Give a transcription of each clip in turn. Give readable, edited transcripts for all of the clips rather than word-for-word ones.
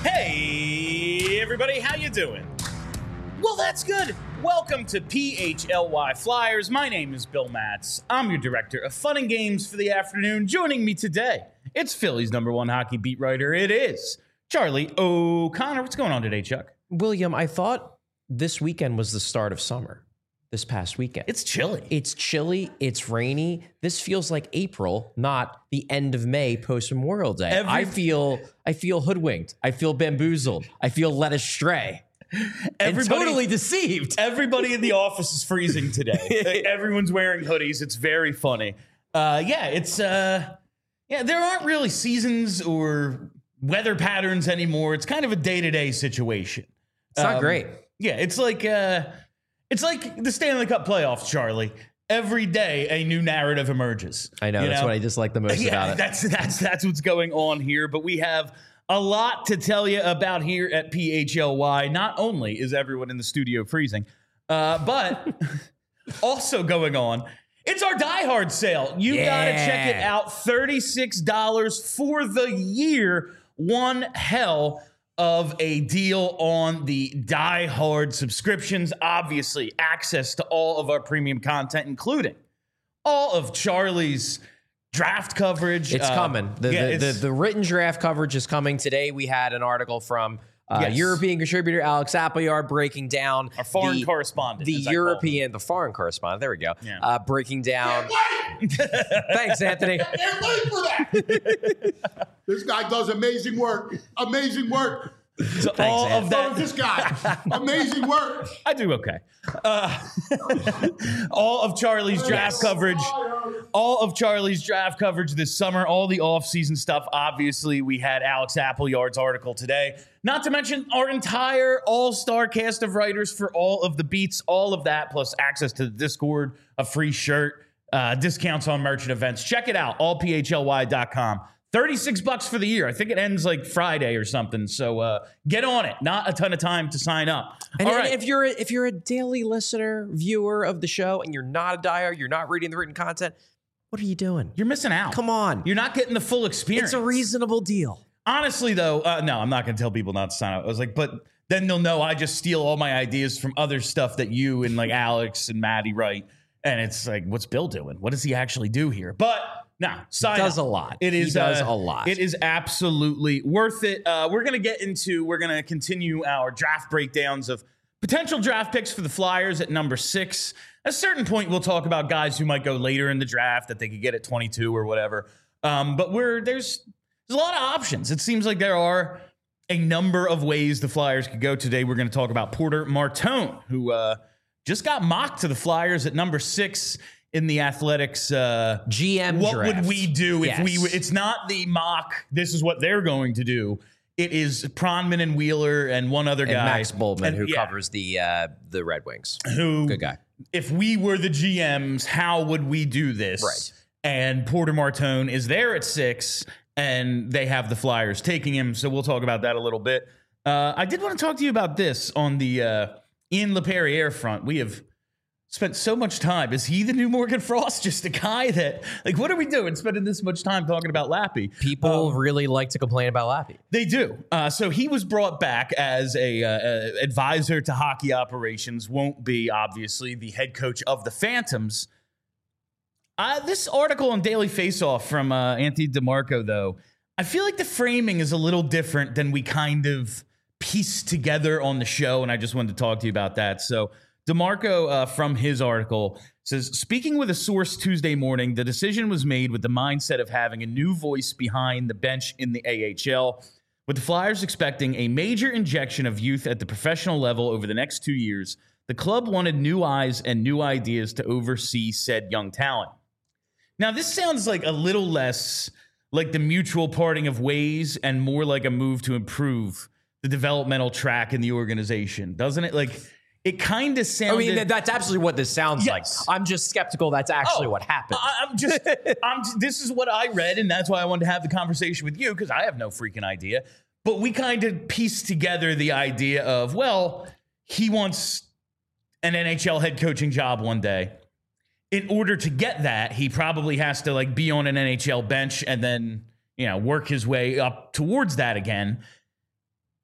Hey, everybody, how you doing? Well, that's good. Welcome to PHLY Flyers. My name is Bill Matz. I'm your director of fun and games for the afternoon. Joining me today, it's Philly's #1 hockey beat writer. It is Charlie O'Connor. What's going on today, Chuck? William, I thought this weekend was the start of summer. This past weekend. It's chilly. It's chilly. It's rainy. This feels like April, not the end of May post Memorial Day. I feel hoodwinked. I feel bamboozled. I feel led astray. And totally deceived. Everybody in the office is freezing today. Everyone's wearing hoodies. It's very funny. There aren't really seasons or weather patterns anymore. It's kind of a day-to-day situation. It's not great. Yeah, it's like the Stanley Cup playoffs, Charlie. Every day, a new narrative emerges. I know. That's what I dislike the most about it. That's what's going on here. But we have a lot to tell you about here at PHLY. Not only is everyone in the studio freezing, but also going on, it's our Die Hard sale. You got to check it out. $36 for the year. One hell of a deal on the Die Hard subscriptions. Obviously, access to all of our premium content, including all of Charlie's draft coverage. It's coming. The written draft coverage is coming. Today we had an article from European contributor Alex Appleyard breaking down our foreign correspondent. The foreign correspondent. There we go. Yeah. Breaking down. Thanks, Anthony. I can't wait for that. This guy does amazing work. Amazing work. So all of that. This guy, amazing work. I do okay. All of Charlie's draft coverage. All of Charlie's draft coverage this summer. All the off-season stuff. Obviously, we had Alex Appleyard's article today. Not to mention our entire all-star cast of writers for all of the beats. All of that, plus access to the Discord, a free shirt, discounts on merchant events. Check it out. allphly.com. $36 for the year. I think it ends like Friday or something. So get on it. Not a ton of time to sign up. And if you're a daily listener, viewer of the show, and you're not a diehard, you're not reading the written content, what are you doing? You're missing out. Come on. You're not getting the full experience. It's a reasonable deal. Honestly, though, no, I'm not going to tell people not to sign up. I was like, but then they'll know I just steal all my ideas from other stuff that you and like Alex and Maddie write. And it's like, what's Bill doing? What does he actually do here? But no, sign does up. a lot. It is, he does a lot. It is absolutely worth it. We're going to continue our draft breakdowns of potential draft picks for the Flyers at number 6. At a certain point, we'll talk about guys who might go later in the draft that they could get at 22 or whatever. But there's a lot of options. It seems like there are a number of ways the Flyers could go today. We're going to talk about Porter Martone, who just got mocked to the Flyers at number 6 in the Athletics GM what draft. Would we do if we? It's not the mock. This is what they're going to do. It is Pronman and Wheeler and one other guy, Max Boldman, who covers the Red Wings. Who, good guy. If we were the GMs, how would we do this? Right. And Porter Martone is there at 6, and they have the Flyers taking him. So we'll talk about that a little bit. I did want to talk to you about this on the Ian LePerriere front. We have spent so much time. Is he the new Morgan Frost? Just a guy that, like, what are we doing spending this much time talking about Lappy? People really like to complain about Lappy. They do. So he was brought back as a advisor to hockey operations. Won't be, obviously, the head coach of the Phantoms. This article on Daily Faceoff from Anthony DeMarco, though, I feel like the framing is a little different than we kind of pieced together on the show, and I just wanted to talk to you about that. So DeMarco, from his article, says, speaking with a source Tuesday morning, the decision was made with the mindset of having a new voice behind the bench in the AHL, with the Flyers expecting a major injection of youth at the professional level over the next 2 years. The club wanted new eyes and new ideas to oversee said young talent. Now, this sounds like a little less like the mutual parting of ways and more like a move to improve the developmental track in the organization, doesn't it? Like, it kind of sounded... I mean, that's absolutely what this sounds like. I'm just skeptical that's actually what happened. This is what I read, and that's why I wanted to have the conversation with you, because I have no freaking idea. But we kind of pieced together the idea of, well, he wants an NHL head coaching job one day. In order to get that, he probably has to like be on an NHL bench and then, work his way up towards that again.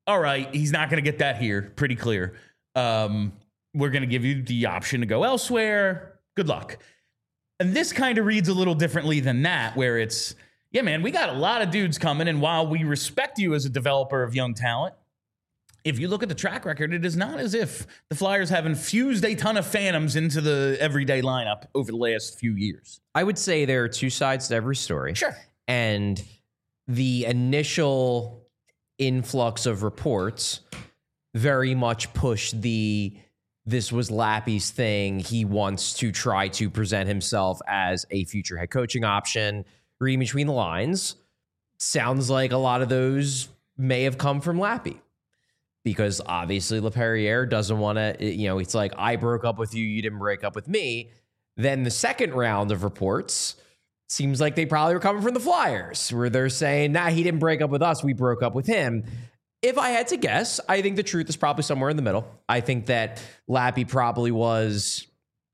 all right, he's not going to get that here. Pretty clear. We're going to give you the option to go elsewhere. Good luck. And this kind of reads a little differently than that, where it's, yeah, man, we got a lot of dudes coming, and while we respect you as a developer of young talent, if you look at the track record, it is not as if the Flyers have infused a ton of phantoms into the everyday lineup over the last few years. I would say there are two sides to every story. Sure. And the initial influx of reports very much pushed this was Lappy's thing. He wants to try to present himself as a future head coaching option. Reading between the lines, sounds like a lot of those may have come from Lappy. Because obviously LaPerriere doesn't want to, it's like, I broke up with you, you didn't break up with me. Then the second round of reports seems like they probably were coming from the Flyers, where they're saying, nah, he didn't break up with us, we broke up with him. If I had to guess, I think the truth is probably somewhere in the middle. I think that Lappy probably was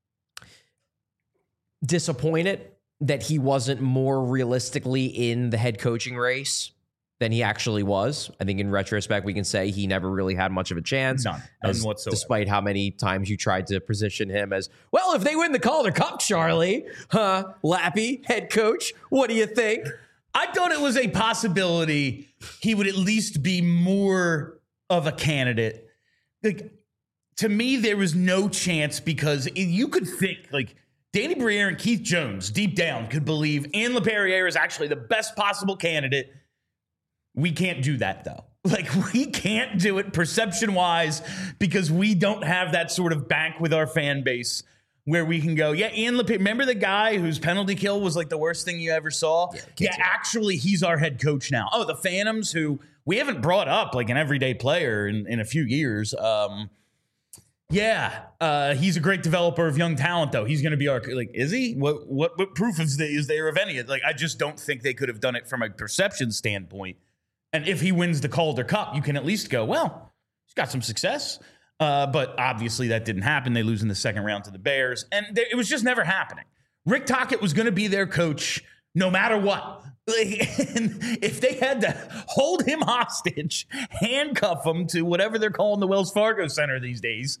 disappointed that he wasn't more realistically in the head coaching race than he actually was. I think in retrospect, we can say he never really had much of a chance. None whatsoever. Despite how many times you tried to position him as, well, if they win the Calder Cup, Charlie, Lappy, head coach, what do you think? I thought it was a possibility he would at least be more of a candidate. Like, to me, there was no chance, because you could think, like, Danny Briere and Keith Jones, deep down, could believe Ian LaPerriere is actually the best possible candidate. We can't do that, though. Like, we can't do it perception-wise, because we don't have that sort of bank with our fan base where we can go, yeah, Ian LaPerriere, remember the guy whose penalty kill was like the worst thing you ever saw? Yeah, actually, he's our head coach now. Oh, the Phantoms, who we haven't brought up like an everyday player in a few years. He's a great developer of young talent, though. He's going to be our, like, is he? What proof is there of any? Like, I just don't think they could have done it from a perception standpoint. And if he wins the Calder Cup, you can at least go, well, he's got some success. But obviously that didn't happen. They lose in the second round to the Bears. And it was just never happening. Rick Tocchet was going to be their coach no matter what. And if they had to hold him hostage, handcuff him to whatever they're calling the Wells Fargo Center these days,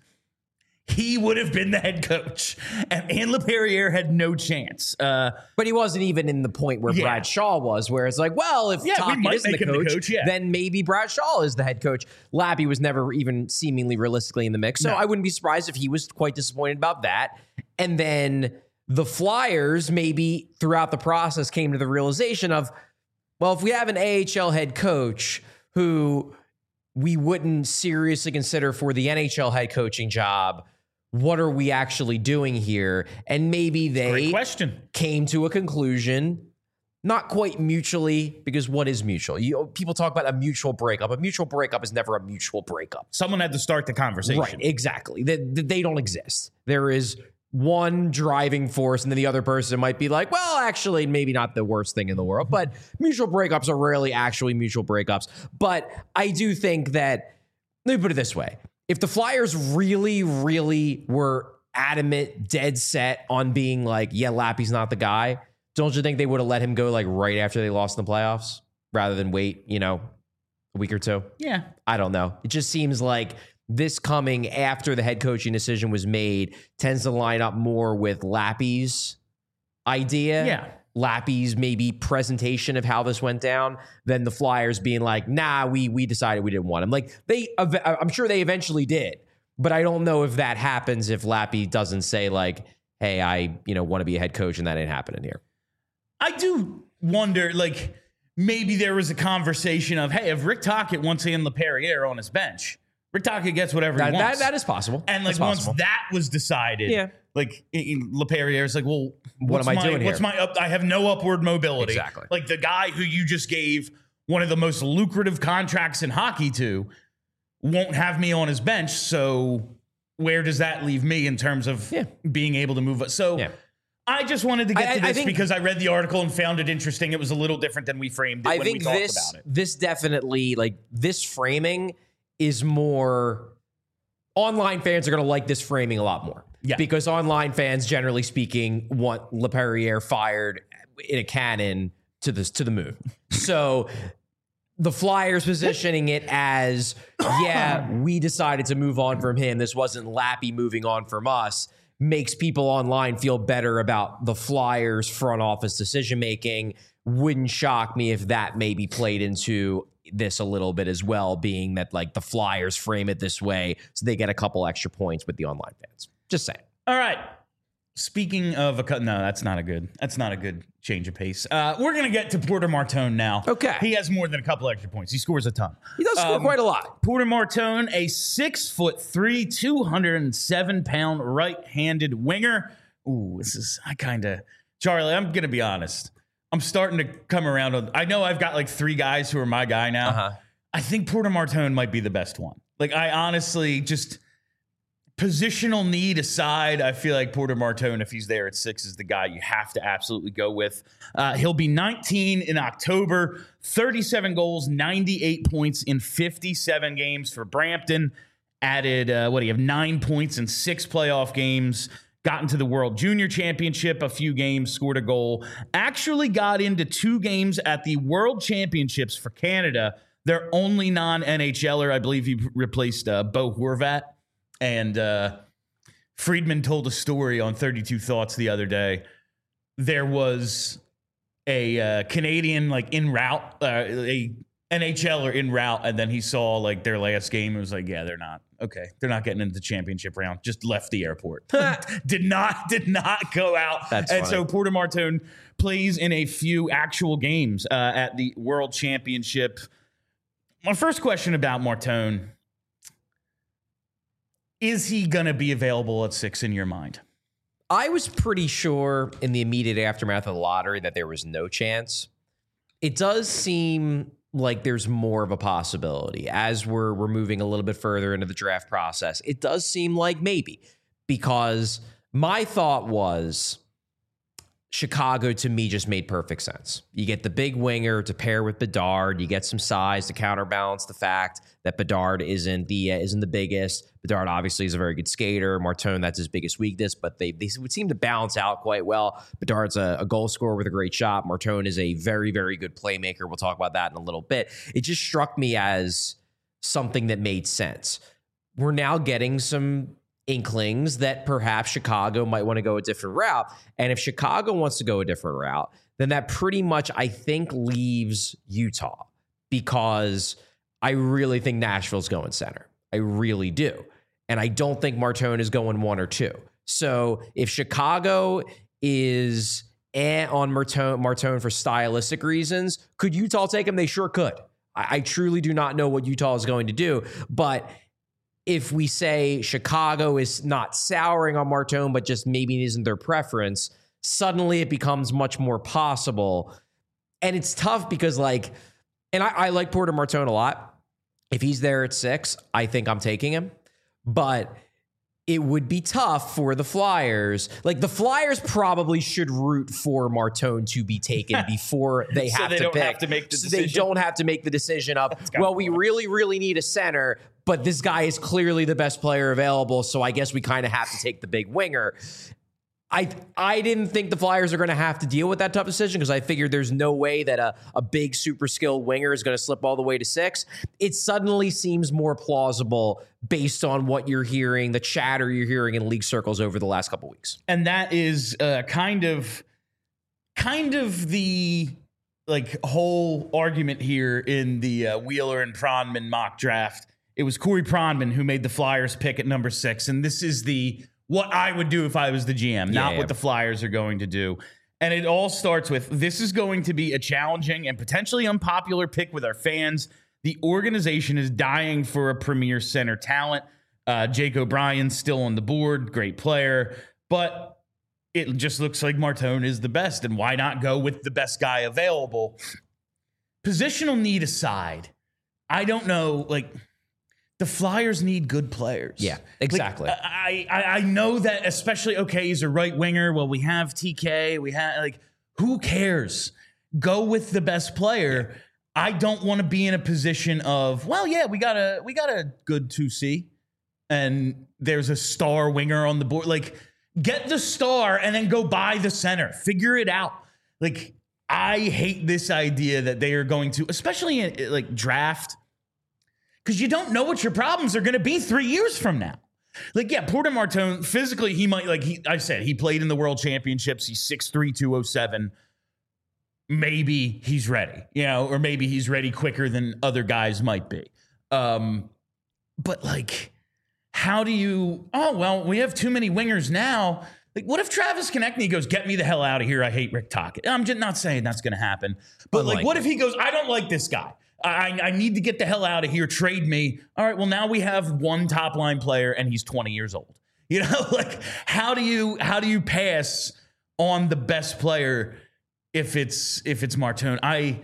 he would have been the head coach. And Ian LaPerriere had no chance. But he wasn't even in the point where Brad Shaw was, where it's like, well, if Tocchet isn't the coach, then maybe Brad Shaw is the head coach. Lappy was never even seemingly realistically in the mix. So I wouldn't be surprised if he was quite disappointed about that. And then the Flyers maybe throughout the process came to the realization of, well, if we have an AHL head coach who we wouldn't seriously consider for the NHL head coaching job, what are we actually doing here? And maybe they came to a conclusion, not quite mutually, because what is mutual? People talk about a mutual breakup. A mutual breakup is never a mutual breakup. Someone had to start the conversation. Right, exactly. They don't exist. There is one driving force, and then the other person might be like, well, actually, maybe not the worst thing in the world, but mutual breakups are rarely actually mutual breakups. But I do think that, let me put it this way. If the Flyers really, really were adamant, dead set on being like, yeah, Lappy's not the guy, don't you think they would have let him go like right after they lost in the playoffs rather than wait, a week or two? Yeah. I don't know. It just seems like this coming after the head coaching decision was made tends to line up more with Lappy's idea. Yeah. Lappy's maybe presentation of how this went down than the Flyers being like, nah, we decided we didn't want him. Like I'm sure they eventually did, but I don't know if that happens if Lappy doesn't say like, hey, I want to be a head coach, and that ain't happening here. I do wonder, like, maybe there was a conversation of, hey, if Rick Tocchet wants Ian LaPerriere on his bench, Rick Tocchet gets whatever he wants. That is possible. And like once that was decided, like LaPerriere is like, well, what am I doing here? I have no upward mobility. Exactly. Like the guy who you just gave one of the most lucrative contracts in hockey to won't have me on his bench. So where does that leave me in terms of being able to move? So I just wanted to get to this because I read the article and found it interesting. It was a little different than we framed it when we talked about it. This definitely, like, this framing is more, online fans are going to like this framing a lot more. Yeah. Because online fans, generally speaking, want LaPerriere fired in a cannon to the moon. So the Flyers positioning it as, yeah, we decided to move on from him. This wasn't Lappy moving on from us. Makes people online feel better about the Flyers front office decision making. Wouldn't shock me if that maybe played into this a little bit as well, being that like the Flyers frame it this way so they get a couple extra points with the online fans. Just saying. All right. Speaking of no, that's not a good change of pace. We're gonna get to Porter Martone now. Okay. He has more than a couple extra points. He scores a ton. He does score quite a lot. Porter Martone, a 6'3", 207-pound right-handed winger. Ooh, Charlie, I'm gonna be honest. I'm starting to come around on. I know I've got like 3 guys who are my guy now. Uh-huh. I think Porter Martone might be the best one. Like, I honestly just. Positional need aside, I feel like Porter Martone, if he's there at 6, is the guy you have to absolutely go with. He'll be 19 in October, 37 goals, 98 points in 57 games for Brampton. Added, do you have 9 points in 6 playoff games. Got into the World Junior Championship a few games, scored a goal. Actually got into 2 games at the World Championships for Canada. Their only non-NHLer, I believe he replaced Bo Horvat. And Friedman told a story on 32 Thoughts the other day. There was a Canadian like en route, a NHLer en route, and then he saw like their last game and was like, yeah, they're not getting into the championship round. Just left the airport. did not go out. That's and funny. So Porter Martone plays in a few actual games at the World Championship. My first question about Martone. Is he going to be available at 6 in your mind? I was pretty sure in the immediate aftermath of the lottery that there was no chance. It does seem like there's more of a possibility as we're moving a little bit further into the draft process. It does seem like maybe, because my thought was Chicago to me just made perfect sense. You get the big winger to pair with Bedard. You get some size to counterbalance the fact that Bedard isn't the biggest. Bedard obviously is a very good skater. Martone, that's his biggest weakness, but they would seem to balance out quite well. Bedard's a goal scorer with a great shot. Martone is a very, very good playmaker. We'll talk about that in a little bit. It just struck me as something that made sense. We're now getting some inklings that perhaps Chicago might want to go a different route. And if Chicago wants to go a different route, then that pretty much, I think, leaves Utah, because I really think Nashville's going center. I really do. And I don't think Martone is going 1 or 2. So if Chicago is on Martone for stylistic reasons, could Utah take him? They sure could. I truly do not know what Utah is going to do. But if we say Chicago is not souring on Martone, but just maybe it isn't their preference, suddenly it becomes much more possible. And it's tough because I like Porter Martone a lot. If he's there at 6, I think I'm taking him. But it would be tough for the Flyers. Like, the Flyers probably should root for Martone to be taken before they have to pick. Have to make the so decision. they don't have to make the decision of, well, we really, really need a center, but this guy is clearly the best player available, so I guess we kind of have to take the big winger. I didn't think the Flyers are going to have to deal with that tough decision, because I figured there's no way that a big super skilled winger is going to slip all the way to 6. It suddenly seems more plausible based on what you're hearing, the chatter you're hearing in league circles over the last couple weeks. And that is kind of the whole argument here in the Wheeler and Pronman mock draft. It was Corey Pronman who made the Flyers pick at number 6, and this is what I would do if I was the GM, not what the Flyers are going to do. And it all starts with, this is going to be a challenging and potentially unpopular pick with our fans. The organization is dying for a premier center talent. Jake O'Brien's still on the board, great player, but it just looks like Martone is the best, and why not go with the best guy available? Positional need aside, I don't know, the Flyers need good players. Yeah, exactly. I know that, especially, he's a right winger. Well, we have TK. We have, who cares? Go with the best player. Yeah. I don't want to be in a position of, we got a good 2C, and there's a star winger on the board. Get the star and then go buy the center. Figure it out. I hate this idea that they are going to, especially in like draft, because you don't know what your problems are going to be 3 years from now. Like, yeah, Porter Martone, physically, he might, like I said, he played in the World Championships. He's 6'3", 207. Maybe he's ready, or maybe he's ready quicker than other guys might be. But, like, how do you, we have too many wingers now. Like, what if Travis Konechny goes, get me the hell out of here, I hate Rick Tocchet? I'm just not saying that's going to happen. But, like, what if he goes, I don't like this guy. I need to get the hell out of here. Trade me. All right, well, now we have one top line player, and he's 20 years old. Like, how do you pass on the best player if it's Martone?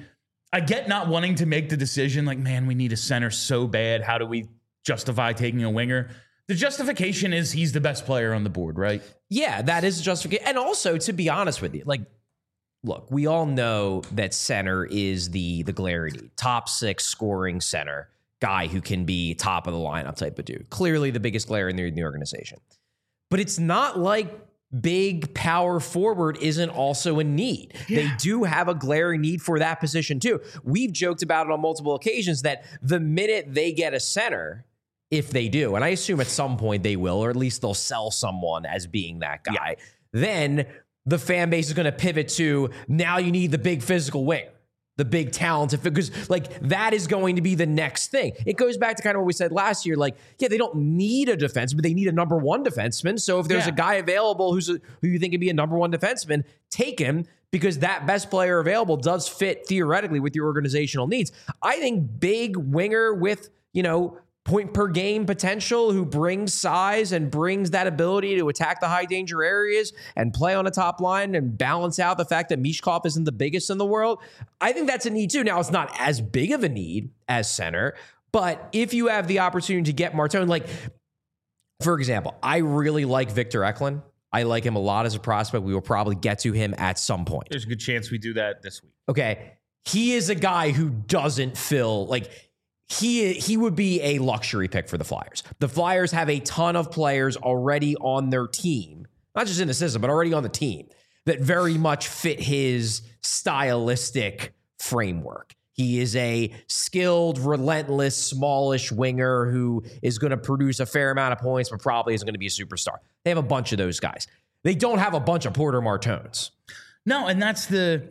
I get not wanting to make the decision, like, man, we need a center so bad. How do we justify taking a winger? The justification is he's the best player on the board, right? Yeah, that is justification. And also, to be honest with you, like, look, we all know that center is the glaring need. Top 6 scoring center, guy who can be top of the lineup type of dude. Clearly the biggest glaring need in the organization. But it's not like big power forward isn't also a need. Yeah. They do have a glaring need for that position too. We've joked about it on multiple occasions that the minute they get a center, if they do, and I assume at some point they will, or at least they'll sell someone as being that guy, then the fan base is going to pivot to, now you need the big physical winger, the big talented, because like that is going to be the next thing. It goes back to kind of what we said last year. Like, yeah, they don't need a defenseman, but they need a number 1 defenseman. So if there's a guy available who you think could be a number 1 defenseman, take him, because that best player available does fit theoretically with your organizational needs. I think big winger with, point per game potential, who brings size and brings that ability to attack the high danger areas and play on a top line and balance out the fact that Mishkov isn't the biggest in the world. I think that's a need too. Now, it's not as big of a need as center, but if you have the opportunity to get Martone, like, for example, I really like Victor Eklund. I like him a lot as a prospect. We will probably get to him at some point. There's a good chance we do that this week. Okay. He is a guy who doesn't fill, like, he would be a luxury pick for the Flyers. The Flyers have a ton of players already on their team, not just in the system, but already on the team, that very much fit his stylistic framework. He is a skilled, relentless, smallish winger who is going to produce a fair amount of points, but probably isn't going to be a superstar. They have a bunch of those guys. They don't have a bunch of Porter Martones. No, and that's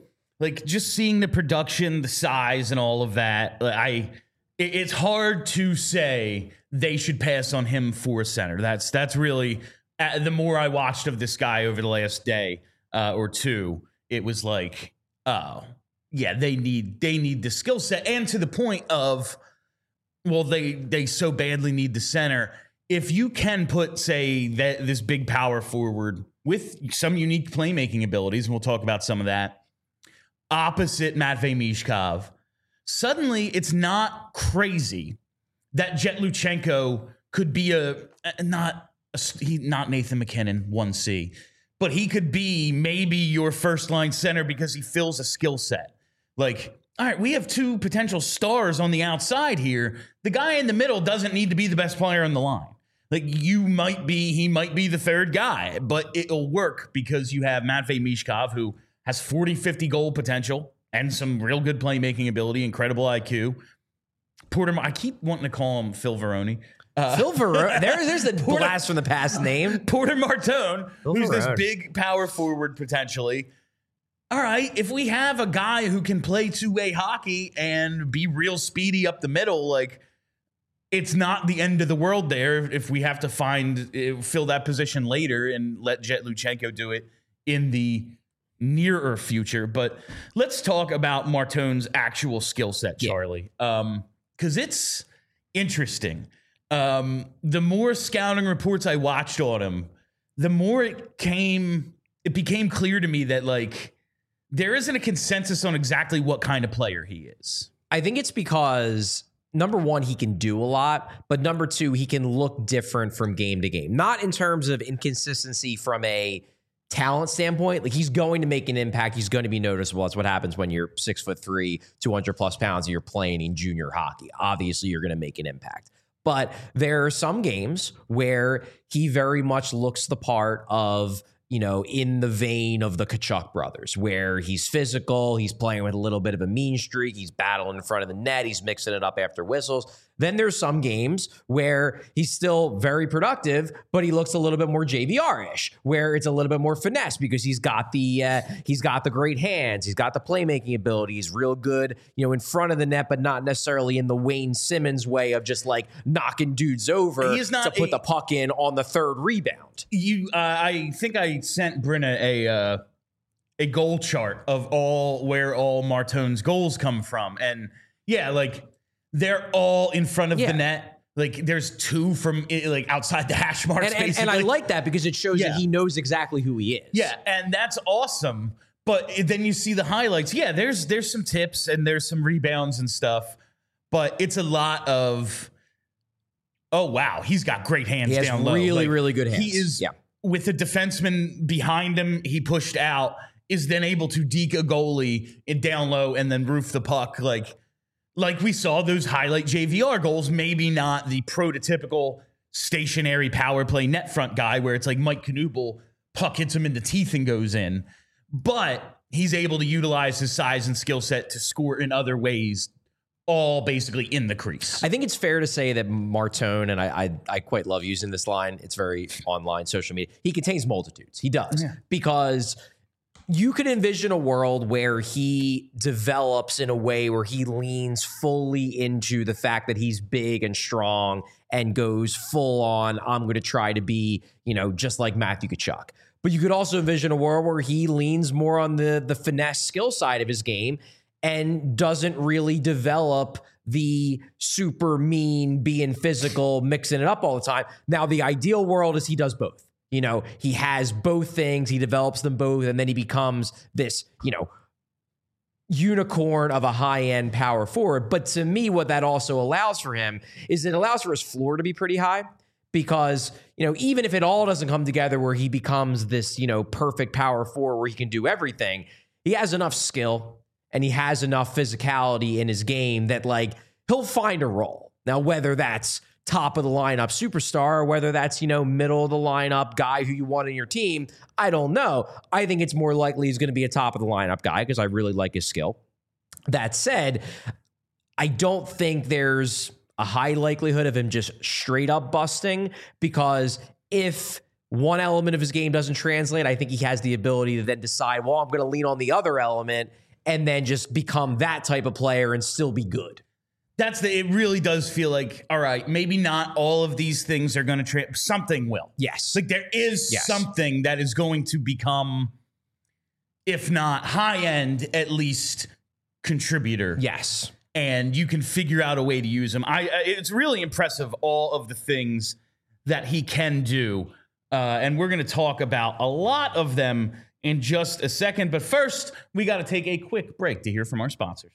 just seeing the production, the size, and all of that. It's hard to say they should pass on him for a center. That's really, the more I watched of this guy over the last day or two, it was like, oh, yeah, they need the skill set. And to the point of, well, they so badly need the center. If you can put, say, this big power forward with some unique playmaking abilities, and we'll talk about some of that, opposite Matvei Mishkov, suddenly, it's not crazy that Jet Luchenko could be not Nathan McKinnon 1C, but he could be maybe your first line center because he fills a skill set. Like, all right, we have 2 potential stars on the outside here. The guy in the middle doesn't need to be the best player on the line. Like, he might be the third guy, but it'll work because you have Matvei Mishkov, who has 40, 50 goal potential and some real good playmaking ability, incredible IQ. I keep wanting to call him Phil Veroni. Phil Veroni. There's a blast from the past name. Porter Martone, who's this big power forward potentially. All right, if we have a guy who can play two-way hockey and be real speedy up the middle, like, it's not the end of the world there if we have to fill that position later and let Jet Luchenko do it in the nearer future. But let's talk about Martone's actual skill set, Charlie, because it's interesting. The more scouting reports I watched on him, the more it became clear to me that, like, there isn't a consensus on exactly what kind of player he is. I think it's because, number one, he can do a lot, but number two, he can look different from game to game. Not in terms of inconsistency from a talent standpoint. Like, he's going to make an impact. He's going to be noticeable. That's what happens when you're 6'3", 200+ pounds, and you're playing in junior hockey. Obviously, you're going to make an impact. But there are some games where he very much looks the part of in the vein of the Tkachuk brothers, where he's physical, he's playing with a little bit of a mean streak, he's battling in front of the net, he's mixing it up after whistles. Then there's some games where he's still very productive, but he looks a little bit more JVR-ish, where it's a little bit more finesse because he's got the great hands, he's got the playmaking ability, he's real good, in front of the net, but not necessarily in the Wayne Simmons way of just like knocking dudes over to put the puck in on the third rebound. I think I sent Brenna a goal chart of where all Martone's goals come from, and they're all in front of the net. Like there's 2 from outside the hash marks, and I like that because it shows that he knows exactly who he is. Yeah, and that's awesome. But then you see the highlights. Yeah, there's some tips and there's some rebounds and stuff, but it's a lot of, oh wow, he's got great hands down low. Really good hands. He is with the defenseman behind him. He pushed out, is then able to deke a goalie in down low and then roof the puck like we saw those highlight JVR goals, maybe not the prototypical stationary power play net front guy where it's like Mike Knuble, puck hits him in the teeth and goes in. But he's able to utilize his size and skill set to score in other ways, all basically in the crease. I think it's fair to say that Martone, and I quite love using this line, it's very online, social media, he contains multitudes. He does. Yeah. Because you could envision a world where he develops in a way where he leans fully into the fact that he's big and strong and goes full on, I'm going to try to be, just like Matthew Tkachuk. But you could also envision a world where he leans more on the finesse skill side of his game and doesn't really develop the super mean, being physical, mixing it up all the time. Now, the ideal world is he does both. He has both things, he develops them both, and then he becomes this, unicorn of a high-end power forward. But to me, what that also allows for him is it allows for his floor to be pretty high because, even if it all doesn't come together where he becomes this, perfect power forward where he can do everything, he has enough skill and he has enough physicality in his game that he'll find a role. Now, whether that's top of the lineup superstar, or whether that's, middle of the lineup guy who you want in your team, I don't know. I think it's more likely he's going to be a top of the lineup guy because I really like his skill. That said, I don't think there's a high likelihood of him just straight up busting, because if one element of his game doesn't translate, I think he has the ability to then decide, well, I'm going to lean on the other element and then just become that type of player and still be good. It really does feel like, all right, maybe not all of these things are going to something will. Yes. There is something that is going to become, if not high end, at least contributor. Yes. And you can figure out a way to use him. It's really impressive, all of the things that he can do. And we're going to talk about a lot of them in just a second. But first, we got to take a quick break to hear from our sponsors.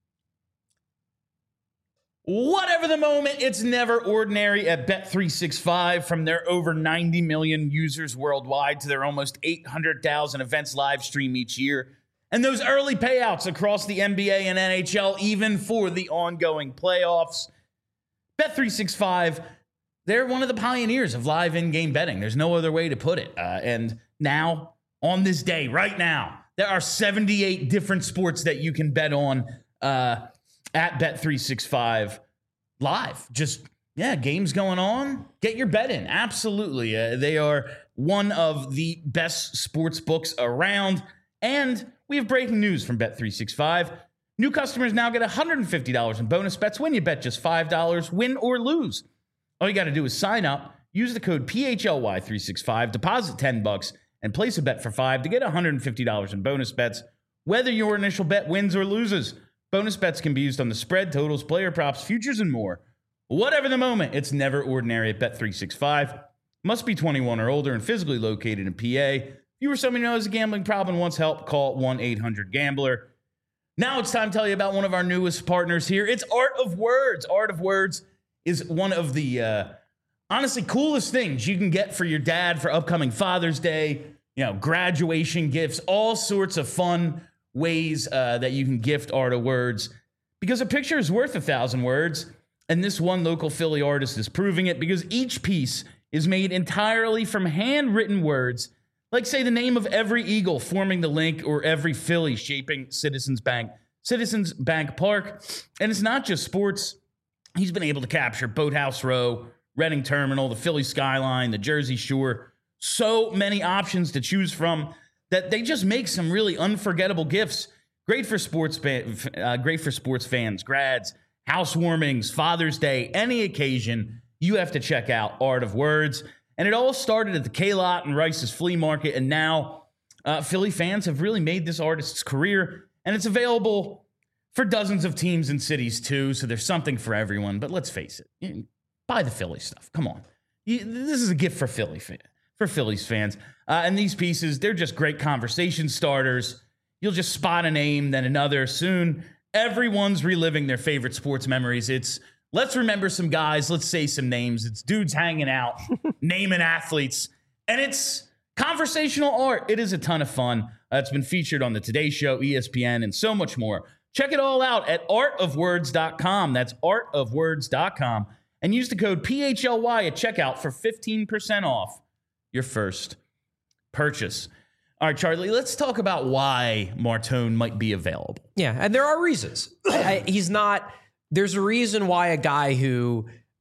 Whatever the moment, it's never ordinary at Bet365. From their over 90 million users worldwide to their almost 800,000 events live stream each year, and those early payouts across the NBA and NHL, even for the ongoing playoffs. Bet365, they're one of the pioneers of live in-game betting. There's no other way to put it. And now, on this day, right now, there are 78 different sports that you can bet on at Bet365 live. Games going on. Get your bet in. Absolutely. They are one of the best sports books around. And we have breaking news from Bet365. New customers now get $150 in bonus bets when you bet just $5, win or lose. All you got to do is sign up, use the code PHLY365, deposit $10, and place a bet for $5 to get $150 in bonus bets, whether your initial bet wins or loses. Bonus bets can be used on the spread, totals, player props, futures, and more. Whatever the moment, it's never ordinary at Bet365. Must be 21 or older and physically located in PA. If you or someone who has a gambling problem and wants help, call 1-800-GAMBLER. Now it's time to tell you about one of our newest partners here. It's Art of Words. Art of Words is one of the, honestly, coolest things you can get for your dad for upcoming Father's Day, graduation gifts, all sorts of fun ways that you can gift Art of Words, because a picture is worth 1,000 words, and this one local Philly artist is proving it, because each piece is made entirely from handwritten words Like, say, the name of every Eagle forming the link or every Philly shaping Citizens Bank Park. And it's not just sports. He's been able to capture Boathouse Row, Reading Terminal, the Philly skyline, the Jersey Shore. So many options to choose from that they just make some really unforgettable gifts. Great for sports fans, grads, housewarmings, Father's Day, any occasion. You have to check out Art of Words. And it all started at the K-Lot and Rice's Flea Market. And now Philly fans have really made this artist's career. And it's available for dozens of teams and cities, too. So there's something for everyone. But let's face it. Buy the Philly stuff. Come on. This is a gift for Phillies fans. And these pieces, they're just great conversation starters. You'll just spot a name, then another. Soon, everyone's reliving their favorite sports memories. It's let's remember some guys. Let's say some names. It's dudes hanging out, naming athletes. And it's conversational art. It is a ton of fun. It's been featured on the Today Show, ESPN, and so much more. Check it all out at artofwords.com. That's artofwords.com. And use the code PHLY at checkout for 15% off your first purchase. All right, Charlie, let's talk about why Martone might be available. Yeah, and there are reasons. He's not... There's a reason why a guy who,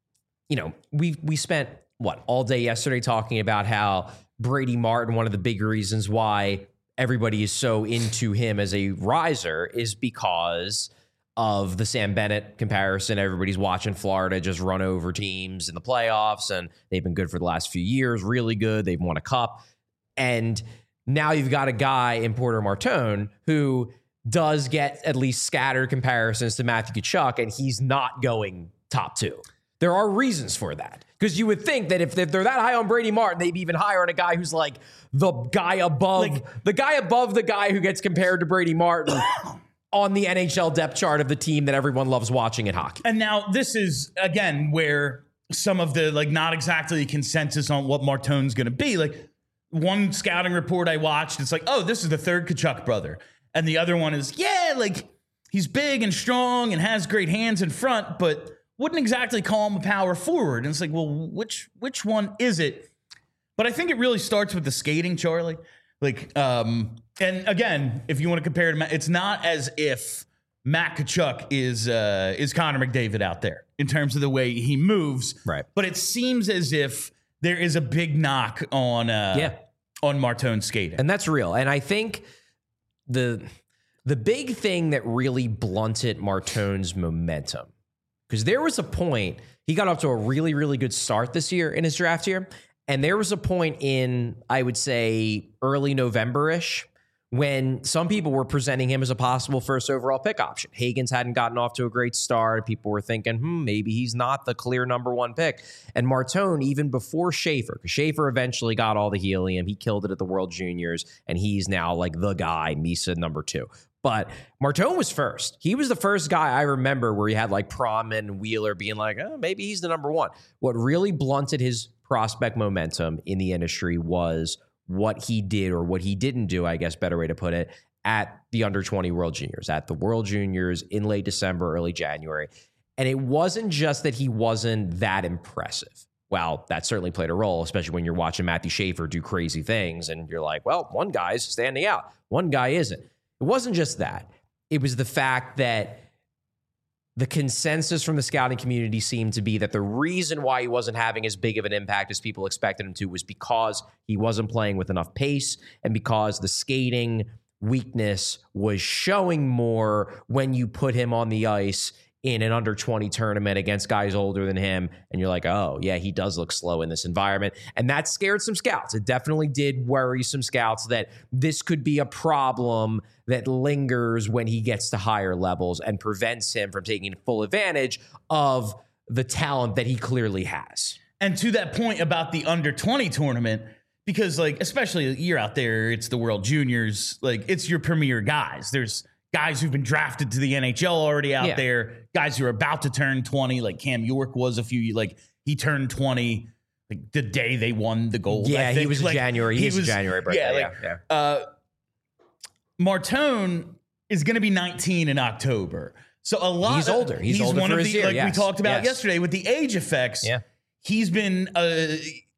we spent, all day yesterday talking about how Brady Martin, one of the big reasons why everybody is so into him as a riser is because of the Sam Bennett comparison. Everybody's watching Florida just run over teams in the playoffs, and they've been good for the last few years, really good. They've won a cup. And now you've got a guy in Porter Martone who does get at least scattered comparisons to Matthew Tkachuk, and he's not going top two. There are reasons for that. Because you would think that if they're that high on Brady Martin, they'd be even higher on a guy who's like the guy above the guy who gets compared to Brady Martin on the NHL depth chart of the team that everyone loves watching in hockey. And now this is, again, where some of the, not exactly consensus on what Martone's going to be. One scouting report I watched, it's this is the third Tkachuk brother. And the other one is, he's big and strong and has great hands in front, but wouldn't exactly call him a power forward. And it's which one is it? But I think it really starts with the skating, Charlie. And again, if you want to compare to Matt, it's not as if Matt Tkachuk is Connor McDavid out there in terms of the way he moves. Right. But it seems as if there is a big knock on Martone's skating. And that's real. And I think the big thing that really blunted Martone's momentum, because there was a point, he got off to a really, really good start this year in his draft year. And there was a point in, I would say, early November-ish, when some people were presenting him as a possible first overall pick option. Higgins hadn't gotten off to a great start. People were thinking, maybe he's not the clear number one pick. And Martone, even before Schaefer, because Schaefer eventually got all the helium. He killed it at the World Juniors, and he's now the guy, Misa number 2. But Martone was first. He was the first guy I remember where he had Prom and Wheeler being maybe he's the number one. What really blunted his prospect momentum in the industry was what he did, or what he didn't do, I guess, better way to put it, at the under-20 World Juniors, at the World Juniors in late December, early January. And it wasn't just that he wasn't that impressive. Well, that certainly played a role, especially when you're watching Matthew Schaefer do crazy things, and you're one guy's standing out, one guy isn't. It wasn't just that. It was the fact that the consensus from the scouting community seemed to be that the reason why he wasn't having as big of an impact as people expected him to was because he wasn't playing with enough pace, and because the skating weakness was showing more when you put him on the ice in an under-20 tournament against guys older than him, and you're oh, yeah, he does look slow in this environment. And that scared some scouts. It definitely did worry some scouts that this could be a problem that lingers when he gets to higher levels and prevents him from taking full advantage of the talent that he clearly has. And to that point about the under-20 tournament, because, especially you're out there, it's the World Juniors, it's your premier guys. There's guys who've been drafted to the NHL already out there, guys who are about to turn 20, like Cam York was he turned 20 the day they won the gold. Yeah, he was January. He was a January birthday. Martone is going to be 19 in October. So he's older. He's older one for of his the, year. we talked about yesterday with the age effects. Yeah. He's been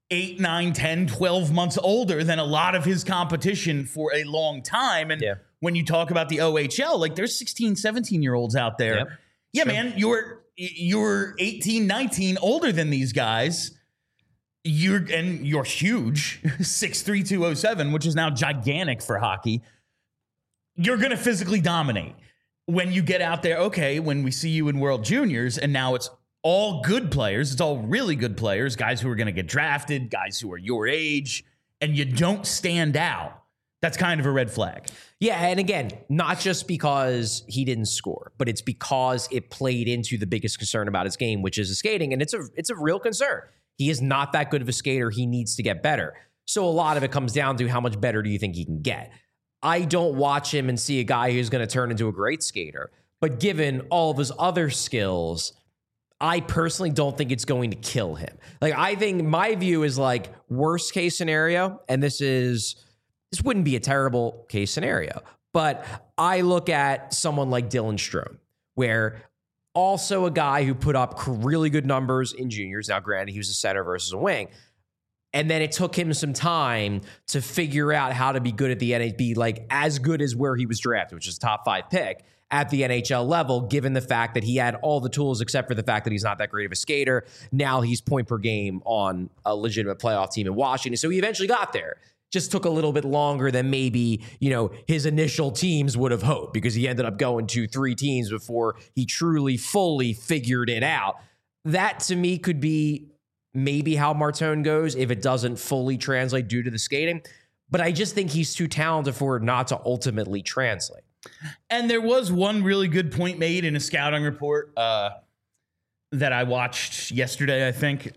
8, 9, 10, 12 months older than a lot of his competition for a long time. And when you talk about the OHL, like there's 16, 17-year-olds out there. Yep. Yeah, sure. Man, you're 18, 19, older than these guys. You're huge, 6'3", 207, which is now gigantic for hockey. You're going to physically dominate. When you get out there, okay, when we see you in World Juniors, and now it's all good players, it's all really good players, guys who are going to get drafted, guys who are your age, and you don't stand out, that's kind of a red flag. Yeah, and again, not just because he didn't score, but it's because it played into the biggest concern about his game, which is his skating, and it's a real concern. He is not that good of a skater. He needs to get better. So a lot of it comes down to how much better do you think he can get? I don't watch him and see a guy who's going to turn into a great skater, but given all of his other skills, I personally don't think it's going to kill him. Like, I think my view is like worst case scenario, and this wouldn't be a terrible case scenario, but I look at someone like Dylan Strome, where also a guy who put up really good numbers in juniors. Now, granted, he was a center versus a wing. And then it took him some time to figure out how to be good at the NHL, like as good as where he was drafted, which is a top 5 pick at the NHL level, given the fact that he had all the tools except for the fact that he's not that great of a skater. Now he's point per game on a legitimate playoff team in Washington. So he eventually got there. Just took a little bit longer than maybe, his initial teams would have hoped, because he ended up going to 3 teams before he truly, fully figured it out. That to me could be maybe how Martone goes if it doesn't fully translate due to the skating. But I just think he's too talented for it not to ultimately translate. And there was one really good point made in a scouting report that I watched yesterday, I think.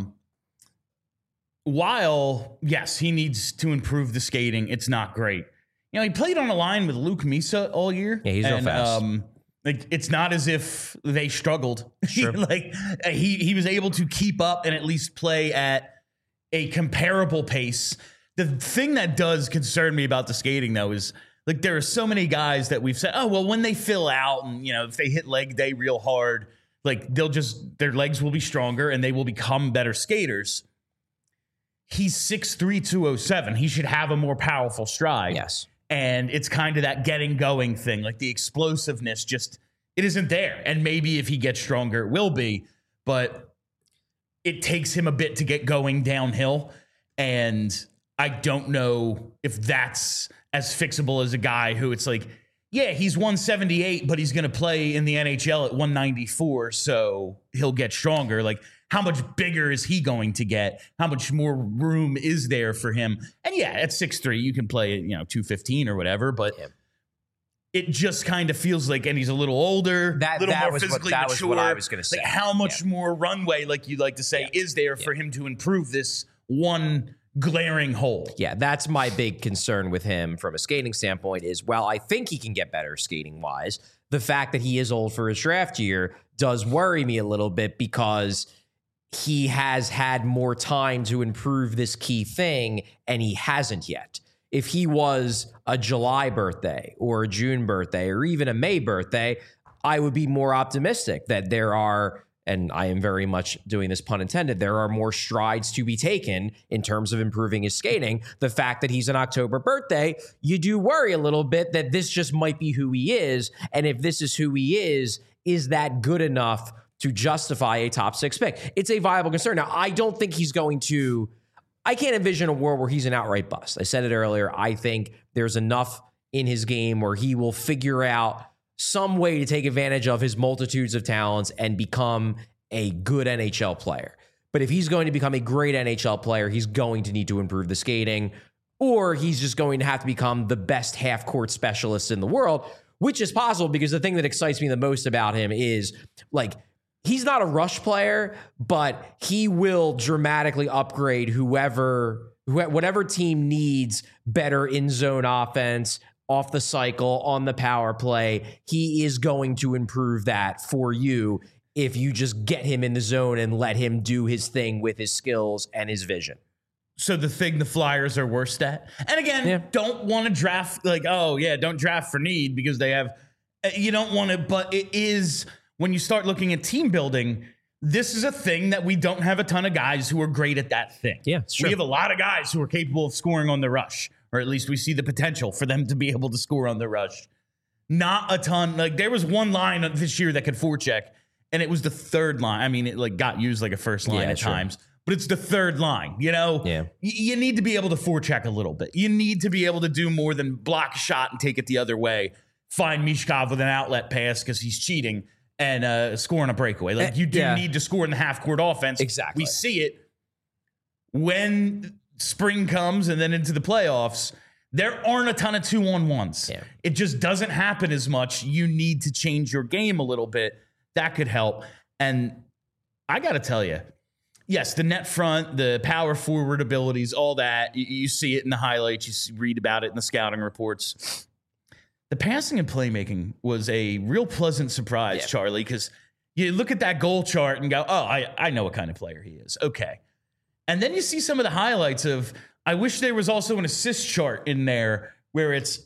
While, yes, he needs to improve the skating, it's not great. He played on a line with Luke Misa all year. Yeah, he's real fast. It's not as if they struggled. Sure. he was able to keep up and at least play at a comparable pace. The thing that does concern me about the skating, though, is like there are so many guys that we've said, oh, well, when they fill out and, if they hit leg day real hard, like their legs will be stronger and they will become better skaters. He's 6'3", 207. He should have a more powerful stride. Yes. And it's kind of that getting going thing. Like the explosiveness it isn't there. And maybe if he gets stronger, it will be. But it takes him a bit to get going downhill. And I don't know if that's as fixable as a guy who it's like, yeah, he's 178, but he's going to play in the NHL at 194. So he'll get stronger. Like, how much bigger is he going to get? How much more room is there for him? And yeah, at 6'3", you can play at 215 or whatever, but it just kind of feels like, and he's a little older, a little more physically mature. Was what I was going to say. Like, how much more runway, like you'd like to say, is there for him to improve this one glaring hole? Yeah, that's my big concern with him from a skating standpoint is, while I think he can get better skating-wise, the fact that he is old for his draft year does worry me a little bit, because he has had more time to improve this key thing, and he hasn't yet. If he was a July birthday or a June birthday or even a May birthday, I would be more optimistic that there are, and I am very much doing this pun intended, there are more strides to be taken in terms of improving his skating. The fact that he's an October birthday, you do worry a little bit that this just might be who he is. And if this is who he is that good enough to justify a top 6 pick? It's a viable concern. Now, I don't think he's going to, I can't envision a world where he's an outright bust. I said it earlier. I think there's enough in his game where he will figure out some way to take advantage of his multitudes of talents and become a good NHL player. But if he's going to become a great NHL player, he's going to need to improve the skating, or he's just going to have to become the best half-court specialist in the world, which is possible, because the thing that excites me the most about him is, like, he's not a rush player, but he will dramatically upgrade whatever team needs better in-zone offense, off the cycle, on the power play. He is going to improve that for you if you just get him in the zone and let him do his thing with his skills and his vision. So the thing the Flyers are worst at, and again, don't want to draft don't draft for need, because they have, you don't want to, but it is, when you start looking at team building, this is a thing that we don't have a ton of guys who are great at that thing. Yeah, it's true. We have a lot of guys who are capable of scoring on the rush, or at least we see the potential for them to be able to score on the rush. Not a ton. Like, there was one line this year that could forecheck, and it was the third line. I mean, it like got used like a first line at times, but it's the third line. You know, you need to be able to forecheck a little bit. You need to be able to do more than block a shot and take it the other way. Find Michkov with an outlet pass because he's cheating and scoring a breakaway. Like, you do need to score in the half-court offense. Exactly. We see it when spring comes and then into the playoffs. There aren't a ton of 2-on-1s. Yeah. It just doesn't happen as much. You need to change your game a little bit. That could help. And I got to tell you, yes, the net front, the power forward abilities, all that, you see it in the highlights. You read about it in the scouting reports. The passing and playmaking was a real pleasant surprise, Charlie, because you look at that goal chart and go, oh, I know what kind of player he is. Okay. And then you see some of the highlights of, I wish there was also an assist chart in there where it's,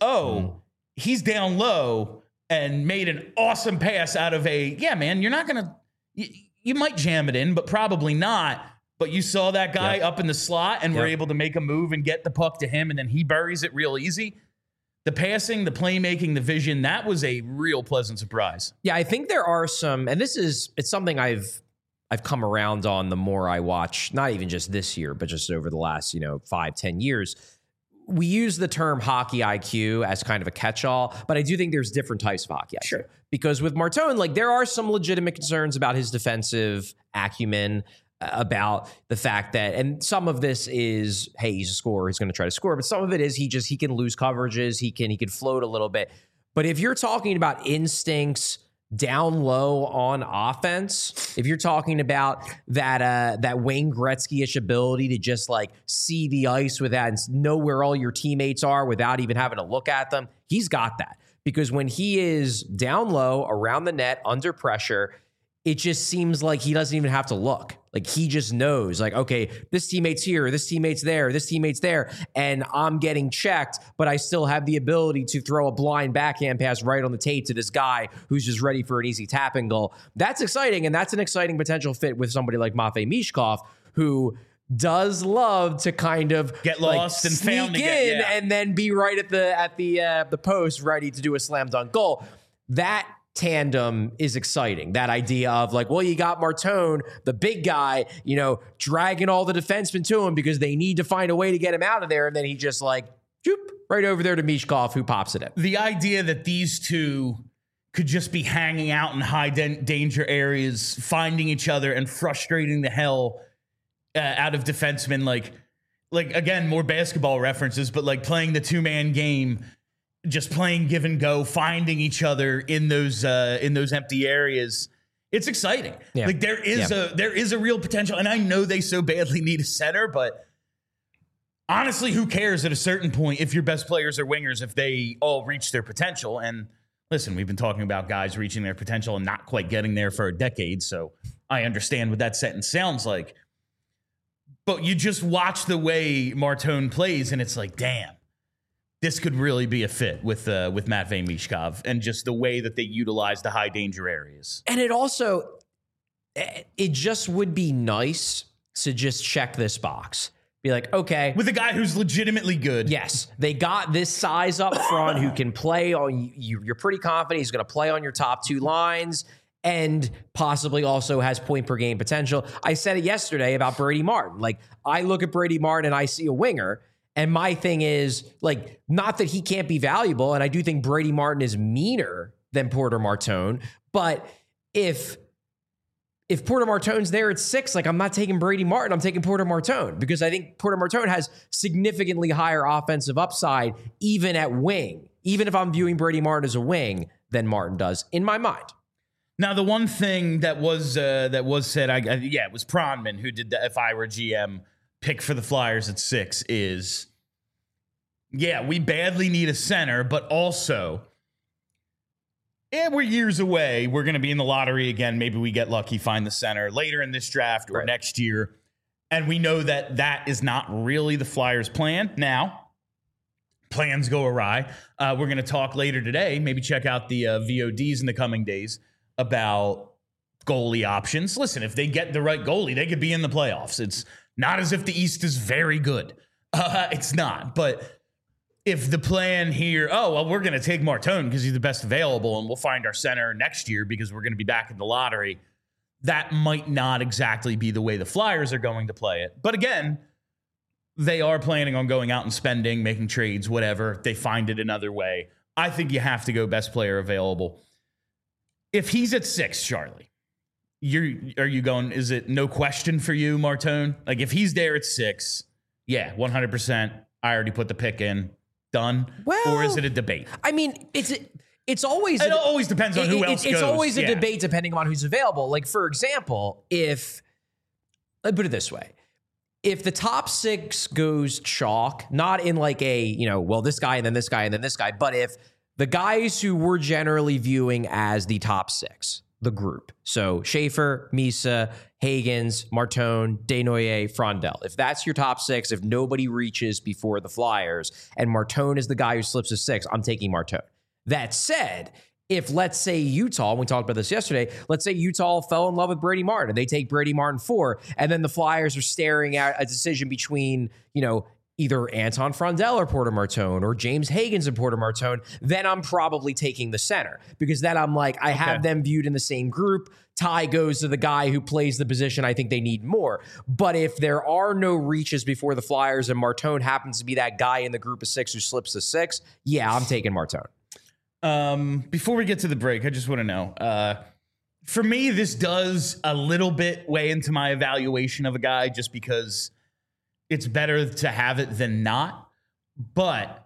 he's down low and made an awesome pass out of you're not going to, you might jam it in, but probably not. But you saw that guy up in the slot and were able to make a move and get the puck to him, and then he buries it real easy. The passing, the playmaking, the vision, that was a real pleasant surprise. Yeah, I think there are some, and it's something I've come around on the more I watch, not even just this year, but just over the last, 5-10 years. We use the term hockey IQ as kind of a catch-all, but I do think there's different types of hockey IQ. Sure. Because with Martone, like, there are some legitimate concerns about his defensive acumen, about the fact that, and some of this is, hey, he's a scorer, he's going to try to score, but some of it is he can lose coverages, he can float a little bit. But if you're talking about instincts down low on offense, if you're talking about that Wayne Gretzky-ish ability to just like see the ice with that and know where all your teammates are without even having to look at them, he's got that. Because when he is down low, around the net, under pressure, it just seems like he doesn't even have to look. Like, he just knows, like, okay, this teammate's here, this teammate's there, this teammate's there, and I'm getting checked, but I still have the ability to throw a blind backhand pass right on the tape to this guy who's just ready for an easy tapping goal. That's exciting, and that's an exciting potential fit with somebody like Matvei Michkov, who does love to kind of get lost and found again, and then be right at the post, ready to do a slam dunk goal. That tandem is exciting. That idea of like, well, you got Martone, the big guy, dragging all the defensemen to him because they need to find a way to get him out of there. And then he just like, right over there to Michkov, who pops it in. The idea that these two could just be hanging out in high danger areas, finding each other and frustrating the hell out of defensemen. Like again, more basketball references, but like playing the 2-man game, just playing give and go, finding each other in those empty areas. It's exciting. Yeah. Like, there is a real potential, and I know they so badly need a center, but honestly, who cares at a certain point if your best players are wingers, if they all reach their potential? And listen, we've been talking about guys reaching their potential and not quite getting there for a decade, so I understand what that sentence sounds like. But you just watch the way Martone plays, and it's like, damn. This could really be a fit with Matvei Michkov and just the way that they utilize the high danger areas. And it just would be nice to just check this box. Be like, okay. With a guy who's legitimately good. Yes. They got this size up front who can play on, you're pretty confident he's going to play on your top two lines and possibly also has point per game potential. I said it yesterday about Brady Martin. Like, I look at Brady Martin and I see a winger. And my thing is, like, not that he can't be valuable, and I do think Brady Martin is meaner than Porter Martone, but if Porter Martone's there at 6, like, I'm not taking Brady Martin, I'm taking Porter Martone, because I think Porter Martone has significantly higher offensive upside, even at wing, even if I'm viewing Brady Martin as a wing, than Martin does, in my mind. Now, the one thing that was said, it was Pronman who did the If I Were GM pick for the Flyers at 6 is, we badly need a center, but also, we're years away. We're going to be in the lottery again. Maybe we get lucky, find the center later in this draft or next year. And we know that is not really the Flyers' plan. Now, plans go awry. We're going to talk later today, maybe check out the VODs in the coming days about goalie options. Listen, if they get the right goalie, they could be in the playoffs. It's not as if the East is very good. It's not. But if the plan here, we're going to take Martone because he's the best available and we'll find our center next year because we're going to be back in the lottery, that might not exactly be the way the Flyers are going to play it. But again, they are planning on going out and spending, making trades, whatever. They find it another way. I think you have to go best player available. If he's at 6, Charlie, are you going, is it no question for you, Martone? Like if he's there at 6, yeah, 100%. I already put the pick in. Done. Well, or is it a debate? I mean, it always depends on who else goes. It's always a debate depending on who's available. Like, for example, let's put it this way. If the top 6 goes chalk, not in like this guy and then this guy and then this guy, but if the guys who we're generally viewing as the top 6, the group, so Schaefer, Misa, Hagens, Martone, Desnoyers, Frondell, if that's your top 6, if nobody reaches before the Flyers and Martone is the guy who slips to 6, I'm taking Martone. That said, if let's say Utah, and we talked about this yesterday, let's say Utah fell in love with Brady Martin and they take Brady Martin 4, and then the Flyers are staring at a decision between, either Anton Frondell or Porter Martone or James Hagens and Porter Martone, then I'm probably taking the center because then I'm like, I have them viewed in the same group. Ty goes to the guy who plays the position I think they need more. But if there are no reaches before the Flyers and Martone happens to be that guy in the group of 6 who slips to 6, yeah, I'm taking Martone. Before we get to the break, I just want to know, for me, this does a little bit weigh into my evaluation of a guy just because it's better to have it than not. But